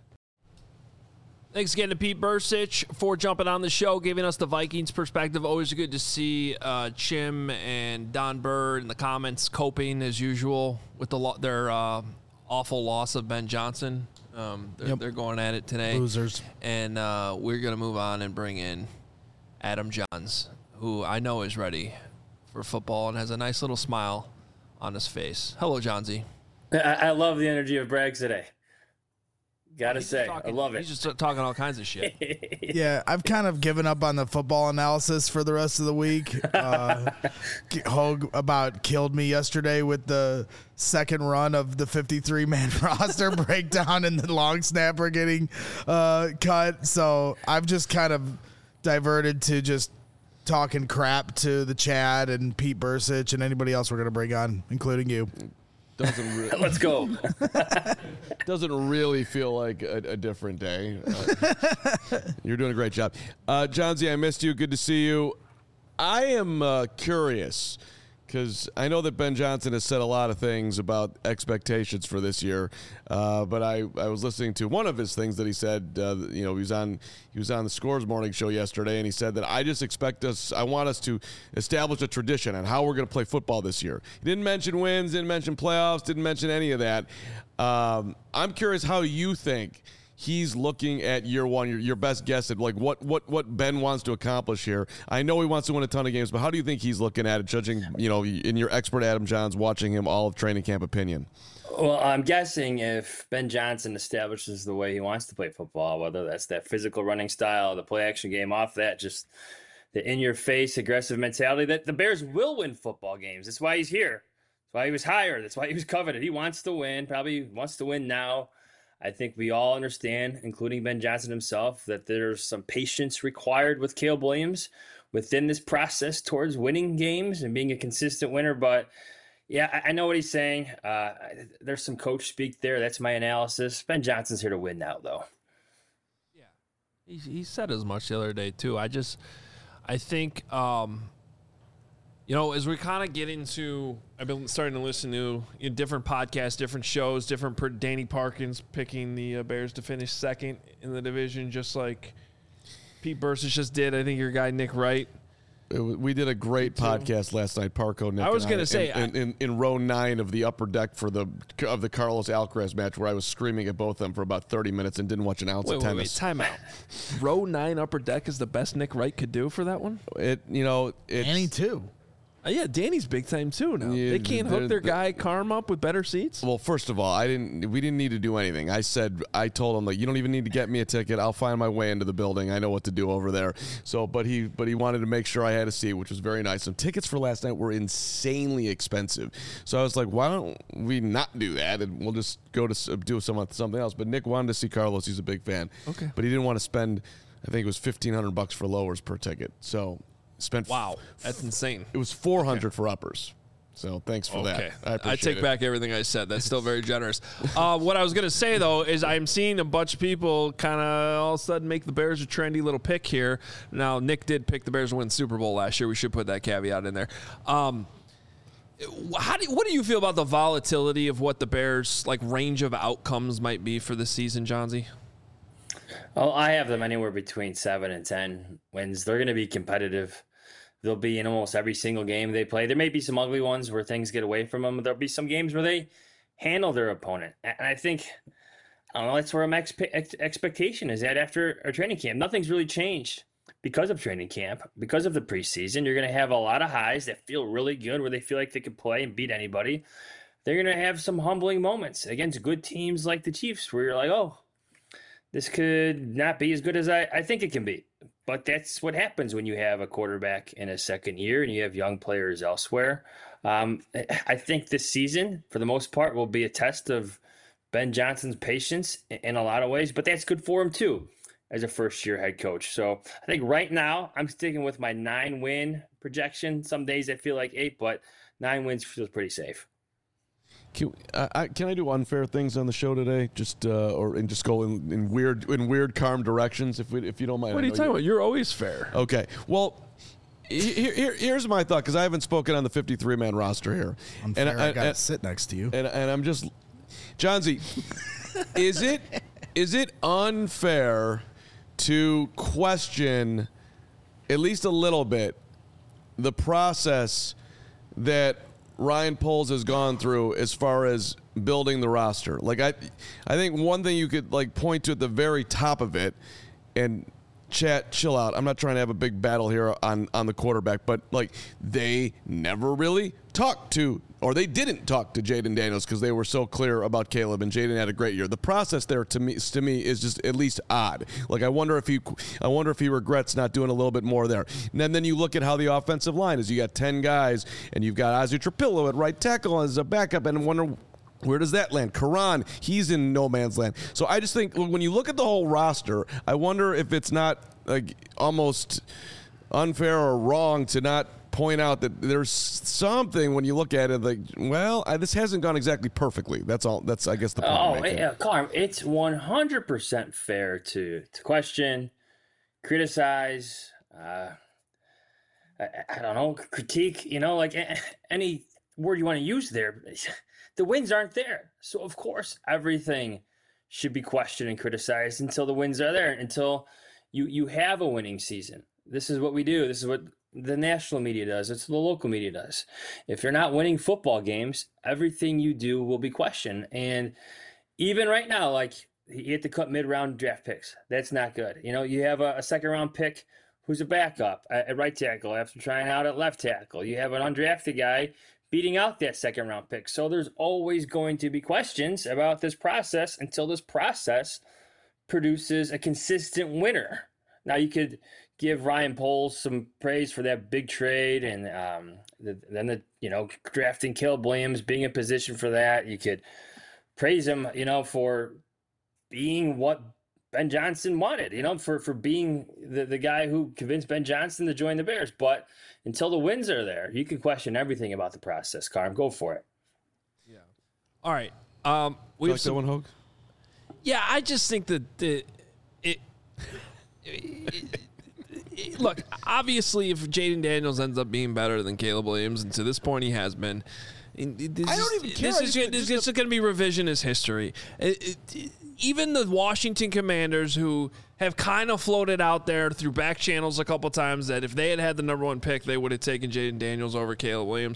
Speaker 1: Thanks again to Pete Bursich for jumping on the show, giving us the Vikings perspective. Always good to see uh, Chim and Don Bird in the comments coping, as usual, with the lo- their uh, awful loss of Ben Johnson. Um, they're,
Speaker 3: Yep.
Speaker 1: they're going at it today.
Speaker 3: Losers.
Speaker 1: And uh, we're going to move on and bring in Adam Johns, who I know is ready for football and has a nice little smile on his face. Hello, Johnsy.
Speaker 5: I, I love the energy of Braggs today. Gotta
Speaker 1: He's
Speaker 5: say,
Speaker 1: talking,
Speaker 5: I love it.
Speaker 1: He's just talking all kinds of shit.
Speaker 3: Yeah, I've kind of given up on the football analysis for the rest of the week. Uh, Hogue about killed me yesterday with the second run of the fifty-three man roster breakdown and the long snapper getting uh, cut. So I've just kind of diverted to just talking crap to the Chad and Pete Bursich and anybody else we're going to bring on, including you.
Speaker 2: Doesn't re-
Speaker 5: Let's go.
Speaker 2: doesn't really feel like a, a different day. Uh, you're doing a great job. Uh, John Z, I missed you. Good to see you. I am uh, curious because I know that Ben Johnson has said a lot of things about expectations for this year, uh, but I, I was listening to one of his things that he said. Uh, you know, he was on he was on the Scores Morning Show yesterday, and he said that I just expect us, I want us to establish a tradition on how we're going to play football this year. He didn't mention wins, didn't mention playoffs, didn't mention any of that. Um, I'm curious how you think he's looking at year one, your, your best guess at like what, what, what Ben wants to accomplish here. I know he wants to win a ton of games, but how do you think he's looking at it, judging, you know, in your expert Adam Johns, watching him all of training camp opinion?
Speaker 5: Well, I'm guessing if Ben Johnson establishes the way he wants to play football, whether that's that physical running style, the play action game, off that, just the in-your-face aggressive mentality, that the Bears will win football games. That's why he's here. That's why he was hired. That's why he was coveted. He wants to win, probably wants to win now. I think we all understand, including Ben Johnson himself, that there's some patience required with Caleb Williams within this process towards winning games and being a consistent winner. But yeah, I, I know what he's saying. Uh, there's some coach speak there. That's my analysis. Ben Johnson's here to win now, though.
Speaker 1: Yeah, he, he said as much the other day too. I just, I think, um, you know, as we kind of get into, I've been starting to listen to you know, different podcasts, different shows, different. Per, Danny Parkins picking the uh, Bears to finish second in the division, just like Pete Bursich just did. I think your guy Nick Wright.
Speaker 2: It, we did a great podcast last night, Parco. Nick
Speaker 1: I was going to say
Speaker 2: in, in, in, in row nine of the upper deck for the of the Carlos Alcaraz match, where I was screaming at both of them for about thirty minutes and didn't watch an ounce
Speaker 1: wait,
Speaker 2: of
Speaker 1: wait,
Speaker 2: tennis.
Speaker 1: Wait, time out. Row nine upper deck is the best Nick Wright could do for that one.
Speaker 2: It you know it's,
Speaker 3: Danny too.
Speaker 1: Uh, yeah, Danny's big time too now.
Speaker 2: Yeah,
Speaker 1: they can't hook their
Speaker 2: they're-
Speaker 1: guy Carm up with better seats.
Speaker 2: Well, first of all, I didn't. We didn't need to do anything. I said, I told him like, you don't even need to get me a ticket. I'll find my way into the building. I know what to do over there. So, but he, but he wanted to make sure I had a seat, which was very nice. Some tickets for last night were insanely expensive. So I was like, why don't we not do that and we'll just go to s- do some something else. But Nick wanted to see Carlos. He's a big fan.
Speaker 1: Okay.
Speaker 2: But he didn't want to spend. I think it was fifteen hundred bucks for lowers per ticket. So spent.
Speaker 1: Wow, that's insane.
Speaker 2: It was four hundred okay. for uppers. So thanks for
Speaker 1: Okay,
Speaker 2: that. I,
Speaker 1: I take
Speaker 2: it.
Speaker 1: back everything I said. That's still very generous. Uh, what I was going to say, though, is I'm seeing a bunch of people kind of all of a sudden make the Bears a trendy little pick here. Now, Nick did pick the Bears to win the Super Bowl last year. We should put that caveat in there. Um, how do what do you feel about the volatility of what the Bears' like range of outcomes might be for the season, Johnsy?
Speaker 5: Well, I have them anywhere between seven and ten wins. They're going to be competitive. They'll be in almost every single game they play. There may be some ugly ones where things get away from them. There'll be some games where they handle their opponent. And I think, I don't know, that's where my expe- ex- expectation is at after our training camp. Nothing's really changed because of training camp, because of the preseason. You're going to have a lot of highs that feel really good, where they feel like they can play and beat anybody. They're going to have some humbling moments against good teams like the Chiefs, where you're like, oh, this could not be as good as I, I think it can be. But that's what happens when you have a quarterback in a second year and you have young players elsewhere. Um, I think this season, for the most part, will be a test of Ben Johnson's patience in a lot of ways, but that's good for him too as a first-year head coach. So I think right now I'm sticking with my nine-win projection. Some days I feel like eight, but nine wins feels pretty safe.
Speaker 2: Can I, I can I do unfair things on the show today? Just uh, or and just go in, in weird in weird calm directions if we if you don't mind.
Speaker 1: What are you talking about? You're always fair.
Speaker 2: Okay. Well, here, here here's my thought, because I haven't spoken on the fifty-three man roster here.
Speaker 3: Unfair,
Speaker 2: and
Speaker 3: I,
Speaker 2: I,
Speaker 3: I gotta
Speaker 2: and,
Speaker 3: sit next to you.
Speaker 2: And and I'm just, Johnsy, is it is it unfair to question at least a little bit the process that Ryan Poles has gone through as far as building the roster? Like, I I think one thing you could like point to at the very top of it, and chat, chill out. I'm not trying to have a big battle here on, on the quarterback, but like they never really talked to or they didn't talk to Jayden Daniels because they were so clear about Caleb, and Jayden had a great year. The process there to me to me is just at least odd. Like I wonder if he I wonder if he regrets not doing a little bit more there. And then, then you look at how the offensive line is. You got ten guys, and you've got Ozzie Trapillo at right tackle as a backup, and wonder where does that land? Karan, he's in no man's land. So I just think when you look at the whole roster, I wonder if it's not like almost unfair or wrong to not point out that there's something when you look at it like, well, I, this hasn't gone exactly perfectly. That's all. That's I guess the point.
Speaker 5: Oh, yeah, Carm, it's one hundred percent fair to to question, criticize. Uh, I, I don't know, critique. You know, like any word you want to use there. The wins aren't there. So, of course, everything should be questioned and criticized until the wins are there, until you, you have a winning season. This is what we do. This is what the national media does. It's what the local media does. If you're not winning football games, everything you do will be questioned. And even right now, like, you have to cut mid-round draft picks. That's not good. You know, you have a, a second-round pick who's a backup at, at right tackle after trying out at left tackle. You have an undrafted guy beating out that second round pick. So there's always going to be questions about this process until this process produces a consistent winner. Now you could give Ryan Poles some praise for that big trade and um, the, then the, you know, drafting Caleb Williams, being in position for that. You could praise him, you know, for being what Ben Johnson wanted, you know, for, for being the, the guy who convinced Ben Johnson to join the Bears. But until the wins are there, you can question everything about the process. Carm, go for it.
Speaker 1: Yeah. All right. Um, we
Speaker 2: You
Speaker 1: have
Speaker 2: like
Speaker 1: some,
Speaker 2: that one, Hogue?
Speaker 1: Yeah, I just think that the it, it, it- look, obviously, if Jayden Daniels ends up being better than Caleb Williams, and to this point he has been, this
Speaker 3: I don't
Speaker 1: is-
Speaker 3: even care.
Speaker 1: This
Speaker 3: I
Speaker 1: is,
Speaker 3: just-
Speaker 1: this
Speaker 3: just
Speaker 1: is going to be revisionist history. It- it- even the Washington Commanders, who have kind of floated out there through back channels a couple times, that if they had had the number one pick, they would have taken Jayden Daniels over Caleb Williams.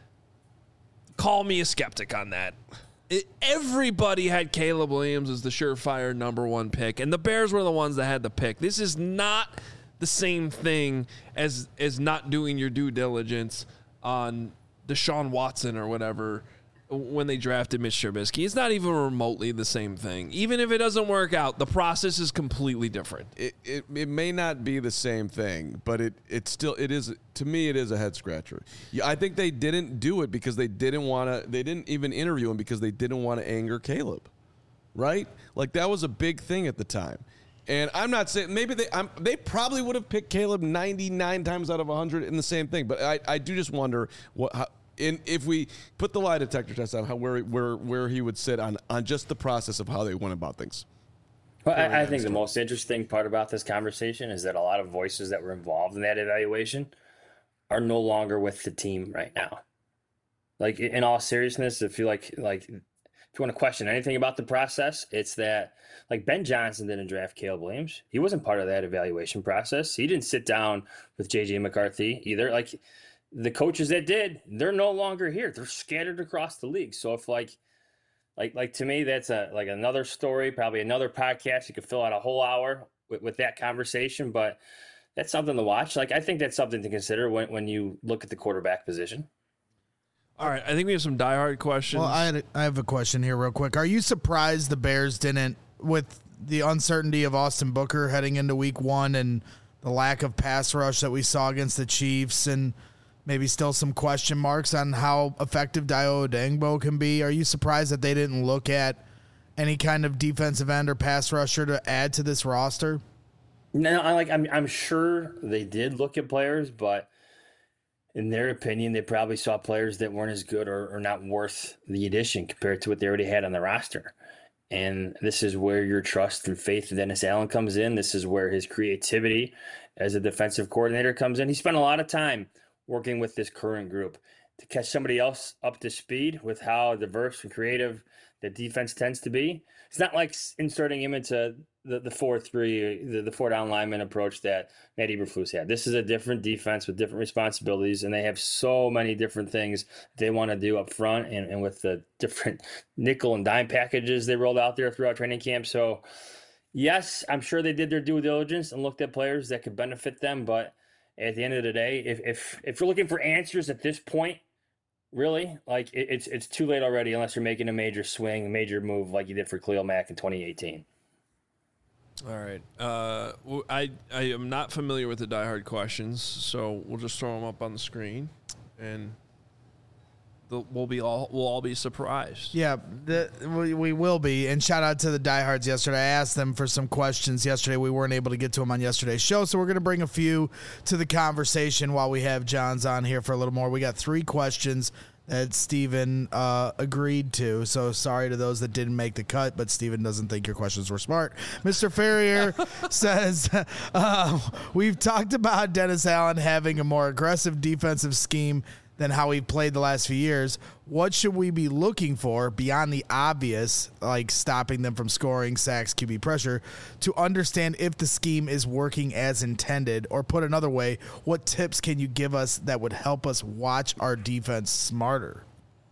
Speaker 1: Call me a skeptic on that. It, everybody had Caleb Williams as the surefire number one pick, and the Bears were the ones that had the pick. This is not the same thing as as not doing your due diligence on Deshaun Watson or whatever when they drafted Mitch Trubisky. It's not even remotely the same thing. Even if it doesn't work out, the process is completely different.
Speaker 2: It, it it may not be the same thing, but it it still it is to me it is a head scratcher. Yeah, I think they didn't do it because they didn't want to. They didn't even interview him because they didn't want to anger Caleb, right? Like that was a big thing at the time. And I'm not saying maybe they I'm, they probably would have picked Caleb ninety-nine times out of one hundred in the same thing, but I, I do just wonder what. How, In, if we put the lie detector test on how where where where he would sit on, on just the process of how they went about things.
Speaker 5: Well, I, I think the most interesting part about this conversation is that a lot of voices that were involved in that evaluation are no longer with the team right now. Like in all seriousness, if you like like if you want to question anything about the process, it's that like Ben Johnson didn't draft Caleb Williams. He wasn't part of that evaluation process. He didn't sit down with J J McCarthy either. Like the coaches that did, they're no longer here. They're scattered across the league. So if like, like, like to me, that's a like another story, probably another podcast. You could fill out a whole hour with, with that conversation, but that's something to watch. Like I think that's something to consider when when you look at the quarterback position.
Speaker 1: All right, I think we have some diehard questions.
Speaker 3: Well, I, had a, I have a question here real quick. Are you surprised the Bears didn't, with the uncertainty of Austin Booker heading into week one and the lack of pass rush that we saw against the Chiefs and maybe still some question marks on how effective Dayo Odeyingbo can be. Are you surprised that they didn't look at any kind of defensive end or pass rusher to add to this roster?
Speaker 5: No, I like I'm I'm sure they did look at players, but in their opinion, they probably saw players that weren't as good or, or not worth the addition compared to what they already had on the roster. And this is where your trust and faith in Dennis Allen comes in. This is where his creativity as a defensive coordinator comes in. He spent a lot of time working with this current group to catch somebody else up to speed with how diverse and creative the defense tends to be. It's not like inserting him into the, the four three, the, the four down lineman approach that Matt Eberflus had. This is a different defense with different responsibilities, and they have so many different things they want to do up front and, and with the different nickel and dime packages they rolled out there throughout training camp. So, yes, I'm sure they did their due diligence and looked at players that could benefit them, but at the end of the day, if if if you're looking for answers at this point, really. Like it, it's it's too late already unless you're making a major swing, a major move like you did for Khalil Mack in twenty eighteen.
Speaker 1: All right. Uh, w- I I am not familiar with the diehard questions, so we'll just throw them up on the screen, and the, we'll be all we'll all be surprised.
Speaker 3: Yeah, the, we, we will be. And shout out to the diehards yesterday. I asked them for some questions yesterday. We weren't able to get to them on yesterday's show, so we're going to bring a few to the conversation while we have John's on here for a little more. We got three questions that Steven uh, agreed to. So sorry to those that didn't make the cut, but Steven doesn't think your questions were smart. Mister Ferrier says, uh, we've talked about Dennis Allen having a more aggressive defensive scheme than how he played the last few years. What should we be looking for beyond the obvious, like stopping them from scoring, sacks, Q B pressure, to understand if the scheme is working as intended? Or put another way, what tips can you give us that would help us watch our defense smarter?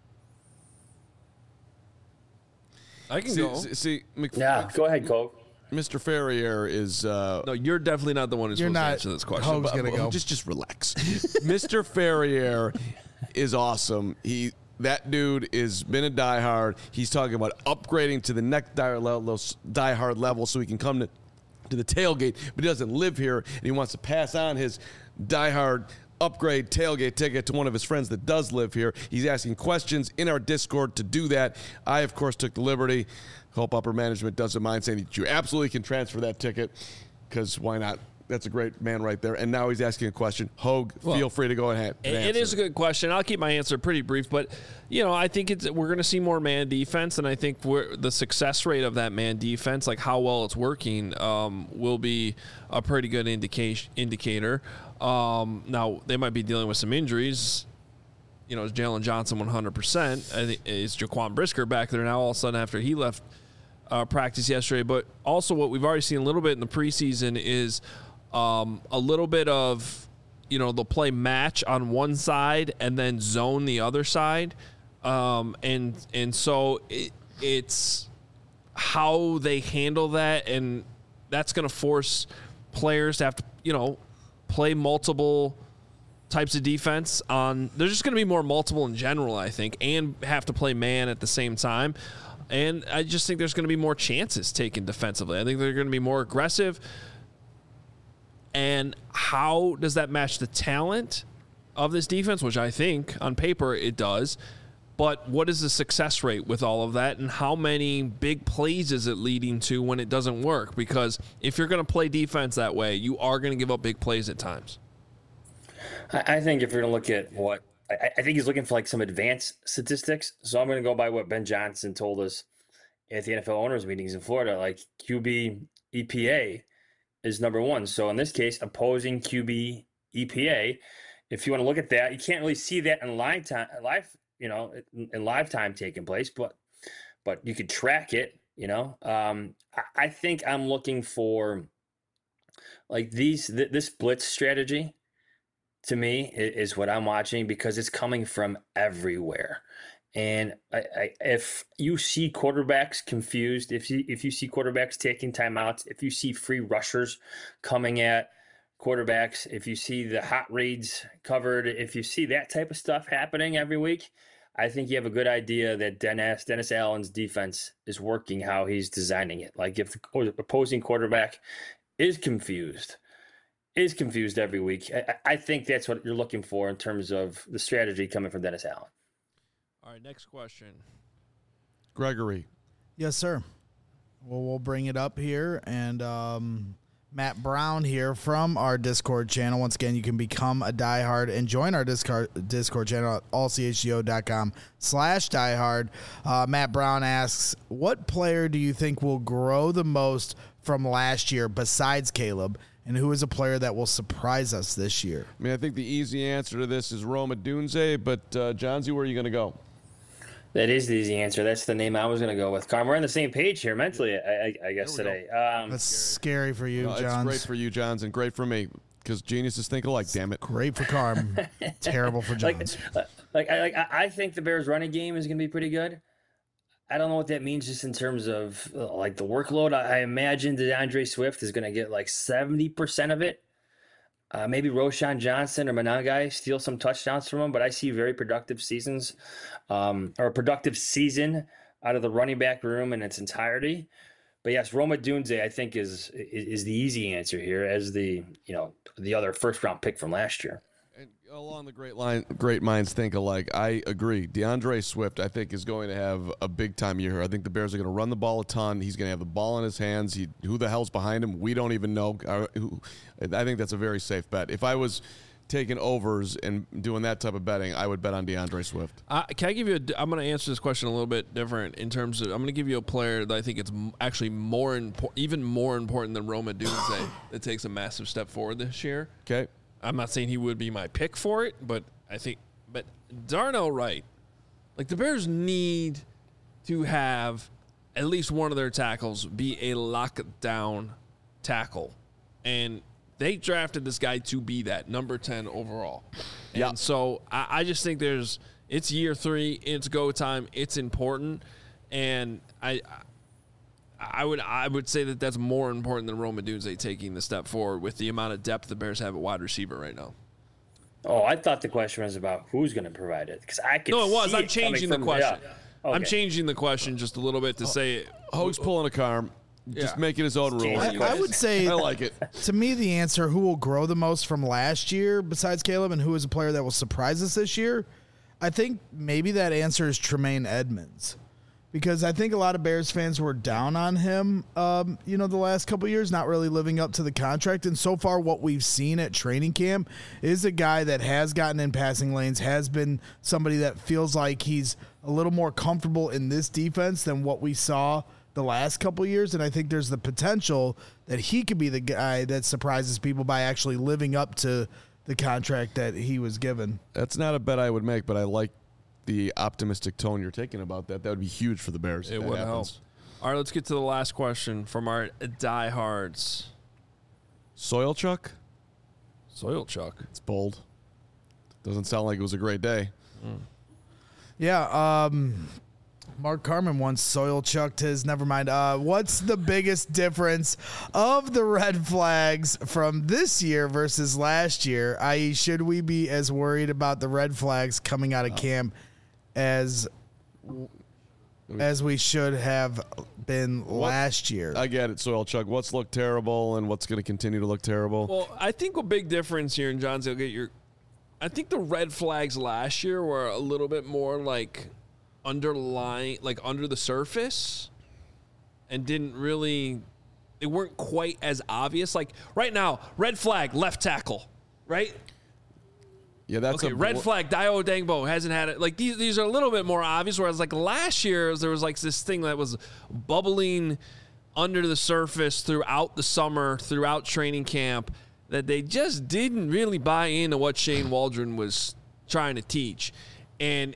Speaker 1: I can
Speaker 2: See,
Speaker 1: go.
Speaker 2: see, see Mc,
Speaker 5: Yeah, go ahead, Cole.
Speaker 2: Mister Ferrier is. Uh,
Speaker 1: No, you're definitely not the one who's
Speaker 3: You're
Speaker 1: supposed
Speaker 3: not.
Speaker 1: to answer this question.
Speaker 3: Hope's
Speaker 1: but-
Speaker 3: gonna go.
Speaker 2: Just, just relax. Mister Ferrier is awesome. He that dude is been a diehard. He's talking about upgrading to the next diehard level, diehard level, so he can come to to the tailgate. But he doesn't live here, and he wants to pass on his diehard upgrade tailgate ticket to one of his friends that does live here. He's asking questions in our Discord to do that. I, of course, took the liberty. Hope Upper Management doesn't mind saying that you absolutely can transfer that ticket, because why not? That's a great man right there. And now he's asking a question. Hogue,
Speaker 1: Well,
Speaker 2: feel free to go ahead. and
Speaker 1: It, it
Speaker 2: answer
Speaker 1: is a good question. I'll keep my answer pretty brief, but you know, I think it's we're going to see more man defense, and I think we're, the success rate of that man defense, like how well it's working, um, will be a pretty good indication indicator. Um, now they might be dealing with some injuries. You know, is Jalen Johnson one hundred percent? Is Jaquan Brisker back there now all of a sudden after he left uh, practice yesterday? But also what we've already seen a little bit in the preseason is um, a little bit of, you know, they'll play match on one side and then zone the other side. Um, and and so it, it's how they handle that, and that's going to force players to have to, you know, play multiple types of defense on. There's just going to be more multiple in general, I think, and have to play man at the same time. And I just think there's going to be more chances taken defensively. I think they're going to be more aggressive. And how does that match the talent of this defense, which I think on paper it does? But what is the success rate with all of that, and how many big plays is it leading to when it doesn't work? Because if you're going to play defense that way, you are going to give up big plays at times.
Speaker 5: I think if you're going to look at what I, I think he's looking for, like some advanced statistics. So I'm going to go by what Ben Johnson told us at the N F L owners meetings in Florida. Like Q B E P A is number one. So in this case, opposing Q B E P A. If you want to look at that, you can't really see that in live time, live, you know, in live time taking place, but but you could track it. You know, um, I, I think I'm looking for like these th- this blitz strategy. To me, is what I'm watching, because it's coming from everywhere. And I, I, if you see quarterbacks confused, if you if you see quarterbacks taking timeouts, if you see free rushers coming at quarterbacks, if you see the hot reads covered, if you see that type of stuff happening every week, I think you have a good idea that Dennis Dennis Allen's defense is working how he's designing it. Like if the opposing quarterback is confused. is confused every week. I, I think that's what you're looking for in terms of the strategy coming from Dennis Allen.
Speaker 1: All right, next question.
Speaker 2: Gregory.
Speaker 3: Yes, sir. Well, we'll bring it up here. And um, Matt Brown here from our Discord channel. Once again, you can become a diehard and join our Discord, Discord channel at all c h g o dot com slash diehard. Uh, Matt Brown asks, what player do you think will grow the most from last year besides Caleb? And who is a player that will surprise us this year?
Speaker 2: I mean, I think the easy answer to this is Roma Dunze, but uh, Johnsy, where are you going to go?
Speaker 5: That is the easy answer. That's the name I was going to go with. Carm, we're on the same page here mentally, I, I, I guess, today. Um,
Speaker 3: That's scary for you,
Speaker 2: No, it's
Speaker 3: Johns.
Speaker 2: great for you, Johns, and great for me, because geniuses think alike, damn it.
Speaker 3: Great for Carm. Terrible for
Speaker 5: like,
Speaker 3: Johns.
Speaker 5: like, I, like, I think the Bears' running game is going to be pretty good. I don't know what that means just in terms of uh, like the workload. I, I imagine DeAndre Swift is going to get like seventy percent of it. Uh, maybe Roshan Johnson or Managai steal some touchdowns from him, but I see very productive seasons um, or a productive season out of the running back room in its entirety. But yes, Roma Dunze, I think, is, is is the easy answer here as the you know the other first round pick from last year.
Speaker 2: And along the great line, great minds think alike. I agree. DeAndre Swift, I think, is going to have a big time year here. I think the Bears are going to run the ball a ton. He's going to have the ball in his hands. He, who the hell's behind him? We don't even know. I, who, I think that's a very safe bet. If I was taking overs and doing that type of betting, I would bet on DeAndre Swift.
Speaker 1: Uh, can I give you a, I'm going to answer this question a little bit different in terms of, I'm going to give you a player that I think it's actually more important, even more important than Roma Dunze that takes a massive step forward this year.
Speaker 2: Okay.
Speaker 1: I'm not saying he would be my pick for it, but I think, but Darnell Wright, like the Bears need to have at least one of their tackles be a lockdown tackle. And they drafted this guy to be that, number ten overall. And
Speaker 2: yeah.
Speaker 1: so I, I just think there's, it's year three, it's go time, it's important. And I, I would I would say that that's more important than Roma Dunze taking the step forward with the amount of depth the Bears have at wide receiver right now.
Speaker 5: Oh, I thought the question was about who's going to provide it because I could.
Speaker 1: No, it was.
Speaker 5: See
Speaker 1: I'm
Speaker 5: it
Speaker 1: changing the
Speaker 5: from,
Speaker 1: question.
Speaker 5: Yeah. Okay.
Speaker 1: I'm changing the question just a little bit to say
Speaker 2: Hoge's pulling a car, just
Speaker 1: Yeah.
Speaker 2: making his own rules.
Speaker 3: I, I would say
Speaker 2: I like it.
Speaker 3: to me, the answer who will grow the most from last year besides Caleb and who is a player that will surprise us this year, I think maybe that answer is Tremaine Edmonds. Because I think a lot of Bears fans were down on him, um, you know, the last couple of years, not really living up to the contract. And so far what we've seen at training camp is a guy that has gotten in passing lanes, has been somebody that feels like he's a little more comfortable in this defense than what we saw the last couple of years. And I think there's the potential that he could be the guy that surprises people by actually living up to the contract that he was given.
Speaker 2: That's not a bet I would make, but I like the optimistic tone you're taking about that. That would be huge for the Bears.
Speaker 1: it would help. All right, let's get to the last question from our diehards.
Speaker 2: Soil Chuck?
Speaker 1: Soil Chuck.
Speaker 2: It's bold. Doesn't sound like it was a great day.
Speaker 1: Mm.
Speaker 3: Yeah, um, Mark Carman once soil chucked his. Never mind. Uh, what's the biggest difference of the red flags from this year versus last year? that is, should we be as worried about the red flags coming out of camp as as we should have been last year?
Speaker 2: I get it, Soil Chuck. What's looked terrible and what's going to continue to look terrible?
Speaker 1: Well, I think a big difference here, and John's, you'll get your. I think the red flags last year were a little bit more like underlying, like under the surface, and didn't really. They weren't quite as obvious. Like right now, red flag, left tackle, right?
Speaker 2: Yeah, that's
Speaker 1: okay.
Speaker 2: a
Speaker 1: Red flag, Dio Dangbo hasn't had it. Like these, these are a little bit more obvious. Whereas like last year, there was like this thing that was bubbling under the surface throughout the summer, throughout training camp, that they just didn't really buy into what Shane Waldron was trying to teach. And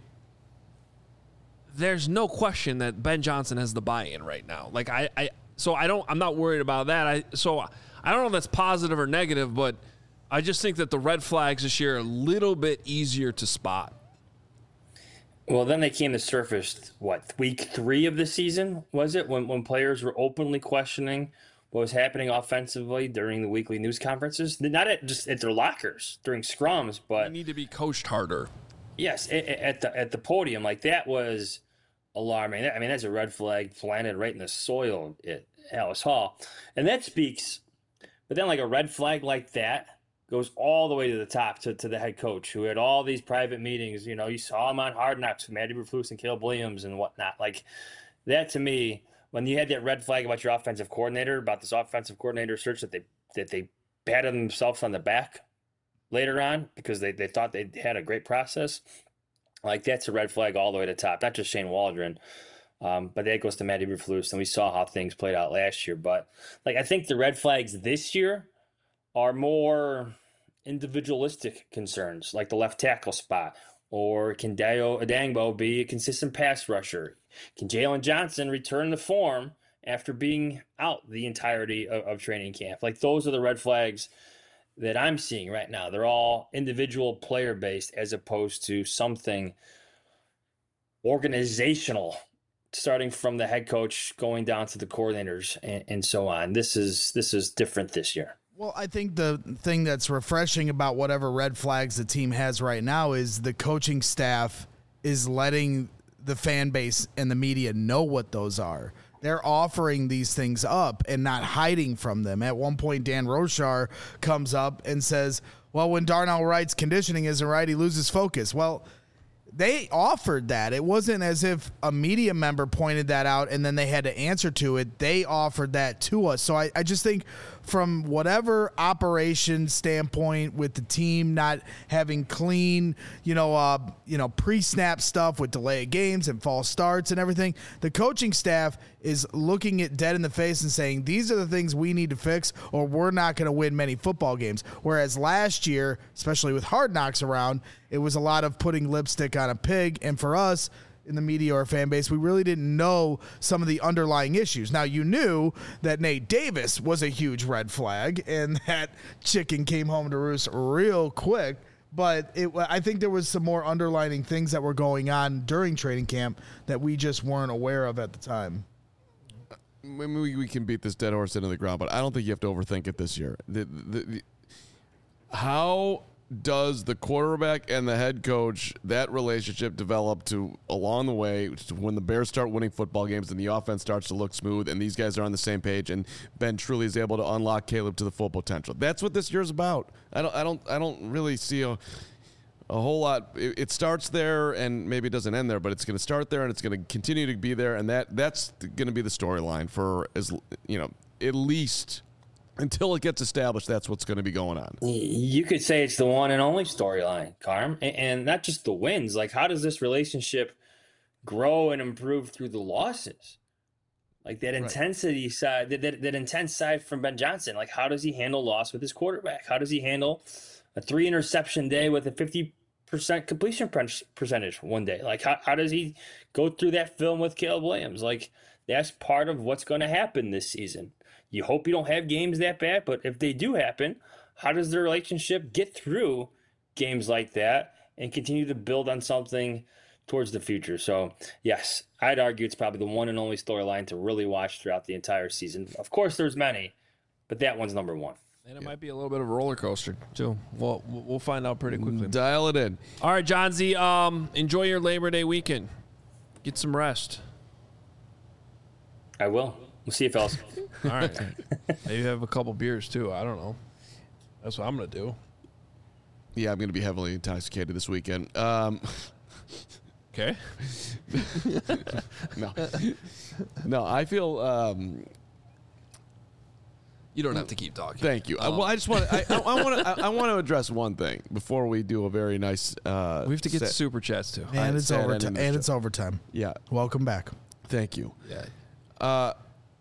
Speaker 1: there's no question that Ben Johnson has the buy-in right now. Like I, I so I don't, I'm not worried about that. I so I don't know if that's positive or negative, but I just think that the red flags this year are a little bit easier to spot.
Speaker 5: Well, then they came to surface, what, week three of the season, was it? When when players were openly questioning what was happening offensively during the weekly news conferences? Not at just at their lockers during scrums, but...
Speaker 1: You need to be coached harder.
Speaker 5: Yes, at, at the at the podium. Like, that was alarming. I mean, that's a red flag planted right in the soil at Alice Hall. And that speaks... But then, like, a red flag like that goes all the way to the top, to, to the head coach, who had all these private meetings. You know, you saw him on Hard Knocks with Matt Eberflus and Caleb Williams and whatnot. Like, that to me, when you had that red flag about your offensive coordinator, about this offensive coordinator search that they that they patted themselves on the back later on because they, they thought they had a great process, like, that's a red flag all the way to the top. Not just Shane Waldron, um, but that goes to Matt Eberflus, and we saw how things played out last year. But, like, I think the red flags this year are more individualistic concerns, like the left tackle spot, or can Dio Adangbo be a consistent pass rusher? Can Jalen Johnson return to form after being out the entirety of, of training camp? Like, those are the red flags that I'm seeing right now. They're all individual player based as opposed to something organizational, starting from the head coach going down to the coordinators and, and so on. This is this is different this year.
Speaker 3: Well, I think the thing that's refreshing about whatever red flags the team has right now is the coaching staff is letting the fan base and the media know what those are. They're offering these things up and not hiding from them. At one point, Dan Rochar comes up and says, well, when Darnell Wright's conditioning isn't right, he loses focus. Well, they offered that. It wasn't as if a media member pointed that out and then they had to answer to it. They offered that to us. So I, I just think from whatever operation standpoint with the team not having clean, you know, uh, you know, pre-snap stuff with delay of games and false starts and everything, the coaching staff is looking it dead in the face and saying, these are the things we need to fix or we're not going to win many football games. Whereas last year, especially with Hard Knocks around, it was a lot of putting lipstick on a pig. And for us in the media or fan base, we really didn't know some of the underlying issues. Now, you knew that Nate Davis was a huge red flag and that chicken came home to roost real quick. But it, I think there was some more underlying things that were going on during training camp that we just weren't aware of at the time.
Speaker 2: Maybe we can beat this dead horse into the ground, but I don't think you have to overthink it this year. The, the, the, how does the quarterback and the head coach, that relationship develop to along the way to when the Bears start winning football games and the offense starts to look smooth and these guys are on the same page and Ben truly is able to unlock Caleb to the full potential? That's what this year's about. I don't I don't I don't really see a a whole lot. It, it starts there and maybe it doesn't end there, but it's going to start there and it's going to continue to be there, and that that's going to be the storyline for, as you know, at least until it gets established. That's what's going to be going on.
Speaker 5: You could say it's the one and only storyline, Carm, and, and not just the wins. Like, how does this relationship grow and improve through the losses? Like that intensity right. side, that, that that intense side from Ben Johnson. Like, how does he handle loss with his quarterback? How does he handle a three interception day with a fifty percent completion percentage one day? Like, how, how does he go through that film with Caleb Williams? Like, that's part of what's going to happen this season. You hope you don't have games that bad, but if they do happen, how does the relationship get through games like that and continue to build on something towards the future? So, yes, I'd argue it's probably the one and only storyline to really watch throughout the entire season. Of course, there's many, but that one's number one.
Speaker 1: And it yeah. might be a little bit of a roller coaster, too. We'll, we'll find out pretty quickly.
Speaker 2: Dial it in.
Speaker 1: All right, John Z, um, enjoy your Labor Day weekend. Get some rest.
Speaker 5: I will. We'll see you, fellas.
Speaker 1: All right. Maybe have a couple beers, too. I don't know. That's what I'm going to do.
Speaker 2: Yeah, I'm going to be heavily intoxicated this weekend. Um,
Speaker 1: okay.
Speaker 2: no. No, I feel... Um,
Speaker 1: You don't have to keep talking.
Speaker 2: Thank you.
Speaker 1: Um,
Speaker 2: well, I just want I, I, I want to I, I want to address one thing before we do a very nice. Uh,
Speaker 1: we have to get
Speaker 2: set.
Speaker 1: to super chats too.
Speaker 3: And it's overtime. And it's overtime.
Speaker 2: Yeah.
Speaker 3: Welcome back.
Speaker 2: Thank you.
Speaker 1: Yeah.
Speaker 2: Uh,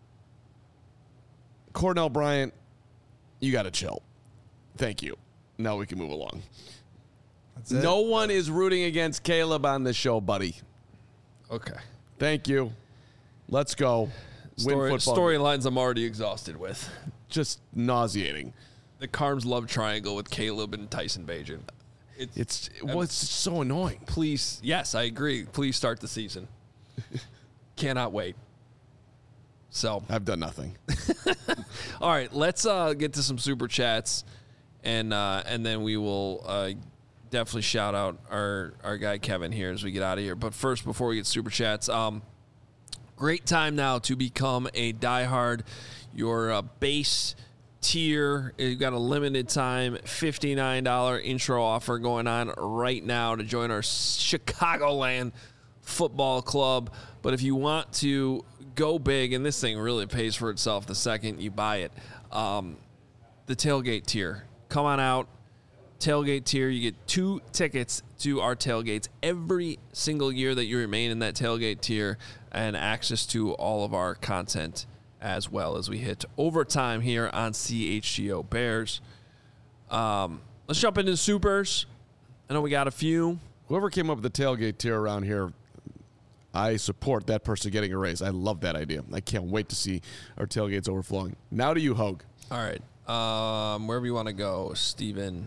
Speaker 2: Cornell Bryant, you got to chill. Thank you. Now we can move along.
Speaker 3: That's it.
Speaker 2: No one is rooting against Caleb on this show, buddy.
Speaker 1: Okay.
Speaker 2: Thank you. Let's go.
Speaker 1: Story, storylines I'm already exhausted with.
Speaker 2: Just nauseating.
Speaker 1: The Carms love triangle with Caleb and Tyson Bagent.
Speaker 2: It's, it's well, it's so annoying.
Speaker 1: Please, yes, I agree. Please start the season. Cannot wait. So
Speaker 2: I've done nothing.
Speaker 1: All right, let's uh, get to some super chats, and uh, and then we will uh, definitely shout out our our guy Kevin here as we get out of here. But first, before we get super chats, um. Great time now to become a diehard. Your uh, base tier, you've got a limited time fifty-nine dollars intro offer going on right now to join our Chicagoland Football Club. But if you want to go big, and this thing really pays for itself the second you buy it, um, the tailgate tier. Come on out. Tailgate tier, you get two tickets to our tailgates every single year that you remain in that tailgate tier, and access to all of our content as well as we hit overtime here on C H G O Bears. Um, let's jump into the supers. I know we got a few.
Speaker 2: Whoever came up with the tailgate tier around here, I support that person getting a raise. I love that idea. I can't wait to see our tailgates overflowing. Now to you, Hogue.
Speaker 1: All right. Um, wherever you want to go, Steven.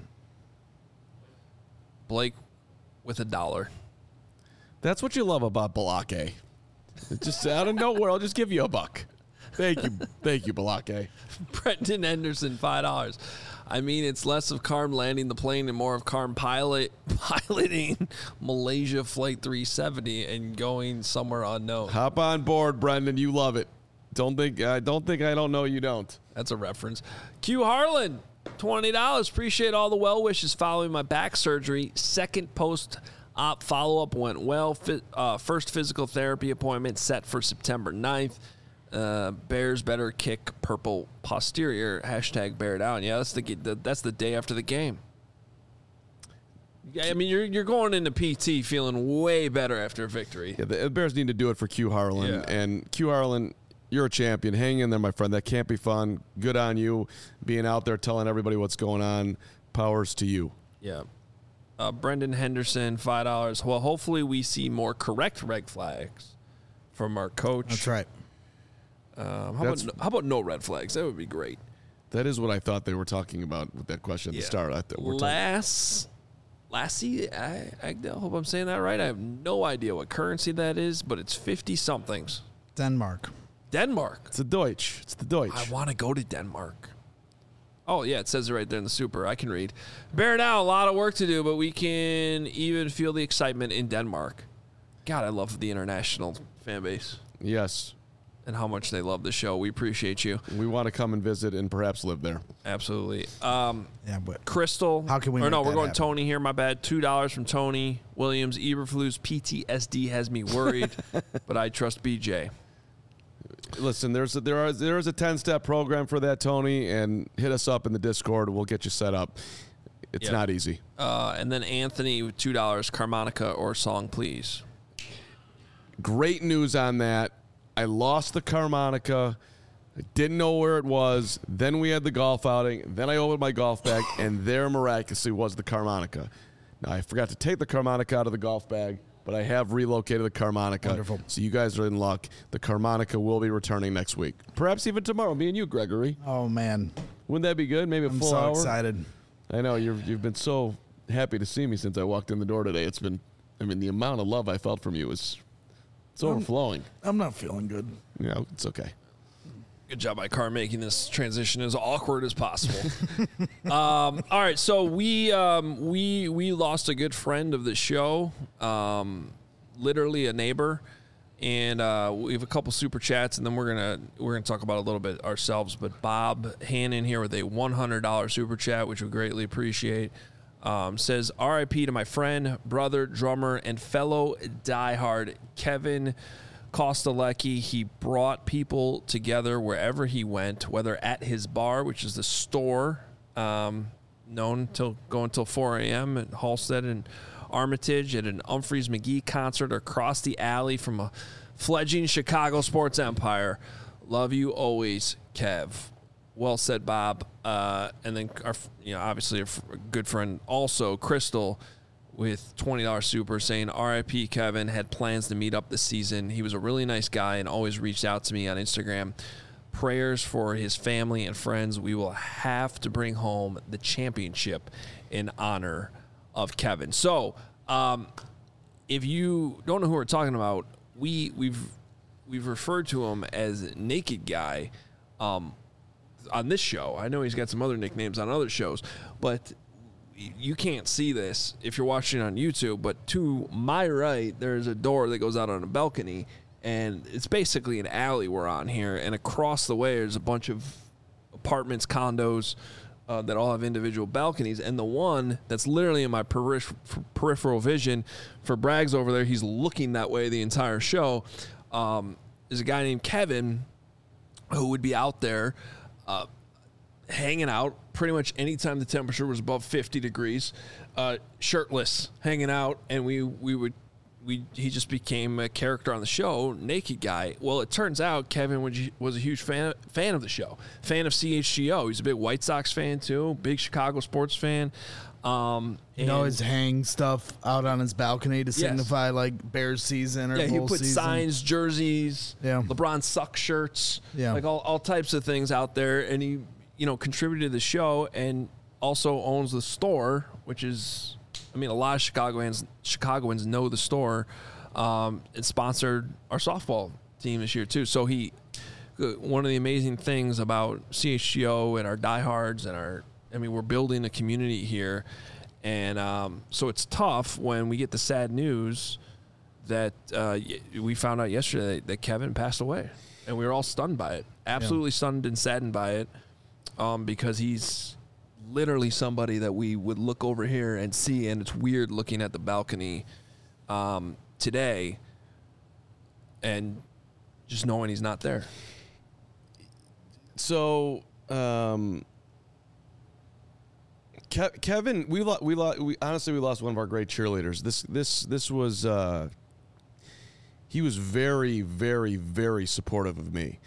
Speaker 1: Blake with a dollar.
Speaker 2: That's what you love about Balake. Just out of nowhere, I'll just give you a buck. Thank you. Thank you, Balake.
Speaker 1: Brendan Henderson, five dollars. I mean, it's less of Carm landing the plane and more of Carm pilot piloting Malaysia Flight three seventy and going somewhere unknown.
Speaker 2: Hop on board, Brendan. You love it. Don't think I don't think I don't know you don't.
Speaker 1: That's a reference. Q Harlan, twenty dollars. Appreciate all the well wishes following my back surgery. Second post-op follow-up went well. Fi- uh, first physical therapy appointment set for September ninth. Uh, Bears better kick purple posterior. Hashtag bear down. Yeah, that's the, the that's the day after the game. Yeah, I mean, you're you're going into P T feeling way better after a victory.
Speaker 2: Yeah, the Bears need to do it for Q Harlan.
Speaker 1: Yeah.
Speaker 2: And Q Harlan, you're a champion. Hang in there, my friend. That can't be fun. Good on you being out there telling everybody what's going on. Powers to you.
Speaker 1: Yeah. Uh, Brendan Henderson, five dollars. Well, hopefully we see more correct red flags from our coach.
Speaker 3: That's right.
Speaker 1: Um, how,
Speaker 2: That's-
Speaker 1: about, how about no red flags? That would be great.
Speaker 2: That is what I thought they were talking about with that question at
Speaker 1: Yeah.
Speaker 2: the start. I th- we're talking-
Speaker 1: Lass, Lassie, I, I hope I'm saying that right. I have no idea what currency that is, but it's fifty somethings.
Speaker 3: Denmark.
Speaker 1: Denmark.
Speaker 2: It's the Deutsch. It's the Deutsch.
Speaker 1: I want to go to Denmark. Oh, yeah, it says it right there in the super. I can read. Bear down, a lot of work to do, but we can even feel the excitement in Denmark. God, I love the international fan base
Speaker 2: Yes.
Speaker 1: and how much they love the show. We appreciate you.
Speaker 2: We want to come and visit and perhaps live there.
Speaker 1: Absolutely. Um,
Speaker 3: Yeah, but
Speaker 1: Crystal.
Speaker 3: How can we
Speaker 1: Or no,
Speaker 3: make
Speaker 1: we're
Speaker 3: that
Speaker 1: going
Speaker 3: happen?
Speaker 1: Tony here. My bad. two dollars from Tony Williams. Eberflus P T S D has me worried, but I trust B J.
Speaker 2: Listen, there's a, there are there is a ten-step program for that, Tony, and hit us up in the Discord. We'll get you set up. It's
Speaker 1: Yeah.
Speaker 2: not easy.
Speaker 1: Uh, and then Anthony with two dollars. Carmonica or song, please.
Speaker 2: Great news on that. I lost the Carmonica. I didn't know where it was. Then we had the golf outing. Then I opened my golf bag, and there miraculously was the Carmonica. Now, I forgot to take the Carmonica out of the golf bag, but I have relocated the Carmonica.
Speaker 3: Wonderful.
Speaker 2: So you guys are in luck. The Carmonica will be returning next week. Perhaps even tomorrow. Me and you, Gregory.
Speaker 3: oh man,
Speaker 2: Wouldn't that be good? Maybe a
Speaker 3: I'm
Speaker 2: full
Speaker 3: so
Speaker 2: hour?
Speaker 3: excited.
Speaker 2: I know. You've, you've been so happy to see me since I walked in the door today. It's been, I mean, the amount of love I felt from you is it's overflowing.
Speaker 3: I'm not feeling good.
Speaker 2: You know, it's okay.
Speaker 1: Good job by Car making this transition as awkward as possible. um, all right, so we um, we we lost a good friend of the show, um, literally a neighbor, and uh, we have a couple super chats, and then we're gonna we're gonna talk about a little bit ourselves. But Bob Hannon here with a one hundred dollars super chat, which we greatly appreciate. Um, says R I P to my friend, brother, drummer, and fellow diehard Kevin Kostelecki. He brought people together wherever he went, whether at his bar, which is the store, um, known till go until four a.m. at Halstead and Armitage, at an Humphreys McGee concert, or across the alley from a fledgling Chicago sports empire. Love you always, Kev. Well said, Bob. Uh, and then, our, you know, obviously a, f- a good friend, also Crystal, with twenty dollars super, saying R I P Kevin, had plans to meet up this season. He was a really nice guy and always reached out to me on Instagram. Prayers for his family and friends. We will have to bring home the championship in honor of Kevin. So, um, if you don't know who we're talking about, we we've we've referred to him as Naked Guy um, on this show. I know he's got some other nicknames on other shows, but you can't see this if you're watching on YouTube, but to my right, there's a door that goes out on a balcony, and it's basically an alley we're on here, and across the way there's a bunch of apartments, condos, uh, that all have individual balconies, and the one that's literally in my perif- peripheral vision for Braggs over there, he's looking that way the entire show, um, is a guy named Kevin who would be out there uh, hanging out pretty much anytime the temperature was above fifty degrees, uh, shirtless, hanging out, and we we would we he just became a character on the show, Naked Guy. Well, it turns out Kevin was, was a huge fan fan of the show, fan of C H G O. He's a big White Sox fan too, big Chicago sports fan. Um,
Speaker 3: You know, his hang stuff out on his balcony to
Speaker 1: Yes.
Speaker 3: signify like Bears season or
Speaker 1: yeah, he
Speaker 3: bull
Speaker 1: put
Speaker 3: season.
Speaker 1: signs, jerseys,
Speaker 3: Yeah.
Speaker 1: LeBron suck shirts,
Speaker 3: Yeah.
Speaker 1: like all, all types of things out there. And he, you know, contributed to the show and also owns the store, which is, I mean, a lot of Chicagoans, Chicagoans know the store. Um, it sponsored our softball team this year too. So he one of the amazing things about C H G O and our diehards and our, I mean, we're building a community here. And um, so it's tough when we get the sad news that uh, we found out yesterday that Kevin passed away. And we were all stunned by it, absolutely yeah. stunned and saddened by it, um, because he's literally somebody that we would look over here and see. And it's weird looking at the balcony um, today and just knowing he's not there.
Speaker 2: So, um, Ke- Kevin, we lo- we, lo- we honestly we lost one of our great cheerleaders. This this this was uh, he was very very very supportive of me,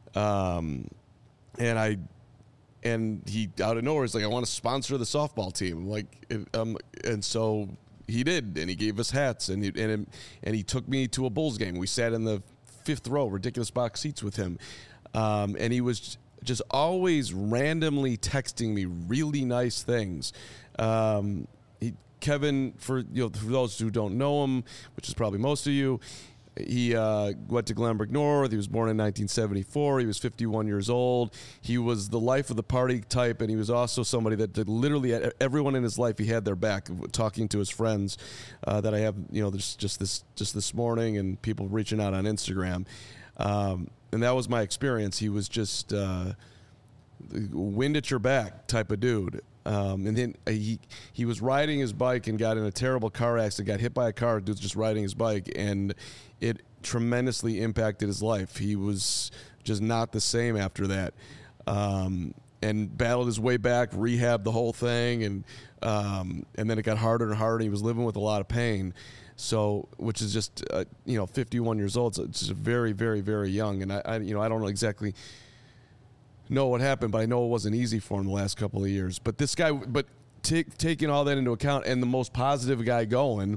Speaker 2: um, and I and he out of nowhere is like, I want to sponsor the softball team. I'm like, it, um, and so he did, and he gave us hats, and he, and and he took me to a Bulls game. We sat in the fifth row, ridiculous box seats with him, um, and he was just always randomly texting me really nice things. Um, he, Kevin, for you know, for those who don't know him, which is probably most of you, he uh, went to Glenbrook North. He was born in nineteen seventy-four. He was fifty-one years old. He was the life of the party type, and he was also somebody that did literally everyone in his life, he had their back. Talking to his friends uh, that I have, you know, there's just this just this morning, and people reaching out on Instagram. Um, and that was my experience. He was just uh, wind at your back type of dude. Um, and then he he was riding his bike and got in a terrible car accident, got hit by a car. Dude's just riding his bike, and it tremendously impacted his life. He was just not the same after that, um, and battled his way back, rehabbed the whole thing, and um, and then it got harder and harder. He was living with a lot of pain. So, which is just, uh, you know, fifty-one years old. So it's just very, very, very young. And I, I, you know, I don't know exactly know what happened, but I know it wasn't easy for him the last couple of years. But this guy, but take, taking all that into account, and the most positive guy going,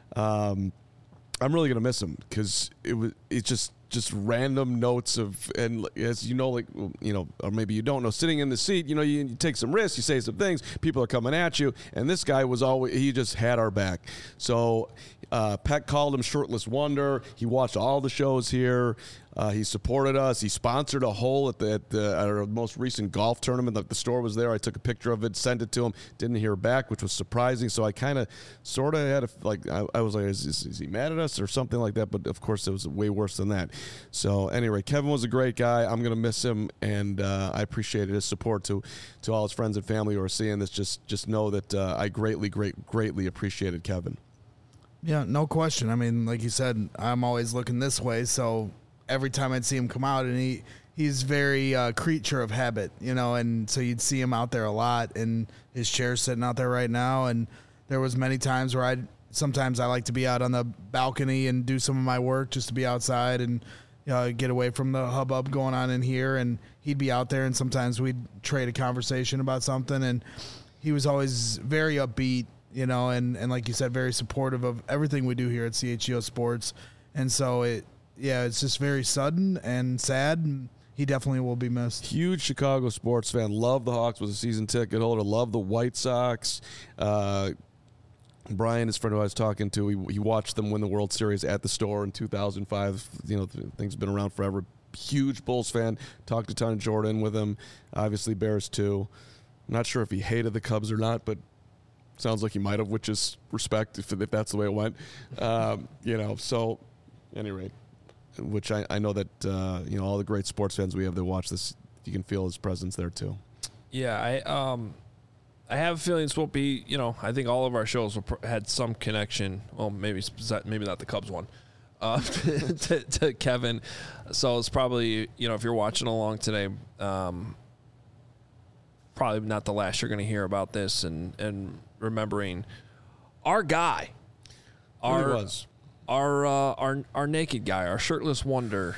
Speaker 2: um, I'm really gonna miss him, because it was it's just just random notes of, and as you know, like, you know, or maybe you don't know, sitting in the seat, you know, you, you take some risks, you say some things, people are coming at you, and this guy was always, he just had our back. So uh, Peck called him Shirtless Wonder. He watched all the shows here. Uh, he supported us. He sponsored a hole at the, at the at our most recent golf tournament. The, the store was there. I took a picture of it, sent it to him. Didn't hear back, which was surprising. So I kind of, sort of had a, like, I, I was like, is, is, is he mad at us or something like that? But of course, it was way worse than that. So anyway, Kevin was a great guy. I'm gonna miss him, and uh, I appreciated his support to to all his friends and family who are seeing this. Just just know that uh, I greatly, great, greatly appreciated Kevin.
Speaker 3: Yeah, no question. I mean, like you said, I'm always looking this way, so every time I'd see him come out, and he he's very uh, creature of habit, you know, and so you'd see him out there a lot, and his chair's sitting out there right now, and there was many times where I'd sometimes I like to be out on the balcony and do some of my work, just to be outside and, you know, get away from the hubbub going on in here, and he'd be out there, and sometimes we'd trade a conversation about something, and he was always very upbeat, you know, and, and like you said, very supportive of everything we do here at C H G O Sports. And so it, yeah, it's just very sudden and sad. And he definitely will be missed.
Speaker 2: Huge Chicago sports fan. Loved the Hawks, was a season ticket holder. Loved the White Sox. Uh, Brian, his friend who I was talking to, he, he watched them win the World Series at the store in two thousand five. You know, things have been around forever. Huge Bulls fan. Talked a ton of Jordan with him. Obviously Bears too. I'm not sure if he hated the Cubs or not, but sounds like he might have, which is respect if, if that's the way it went. Um, you know, so anyway, which I, I know that, uh, you know, all the great sports fans we have that watch this, you can feel his presence there too.
Speaker 1: Yeah, I um, I have a feeling this won't be, you know, I think all of our shows will pr- had some connection, well, maybe maybe not the Cubs one, uh, to, to Kevin. So it's probably, you know, if you're watching along today, um, probably not the last you're going to hear about this, and, and remembering our guy, our
Speaker 2: Who he was.
Speaker 1: our uh, our our naked guy, our shirtless wonder,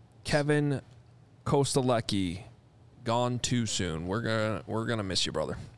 Speaker 1: Kevin Kostelecki, gone too soon. We're gonna we're gonna miss you, brother.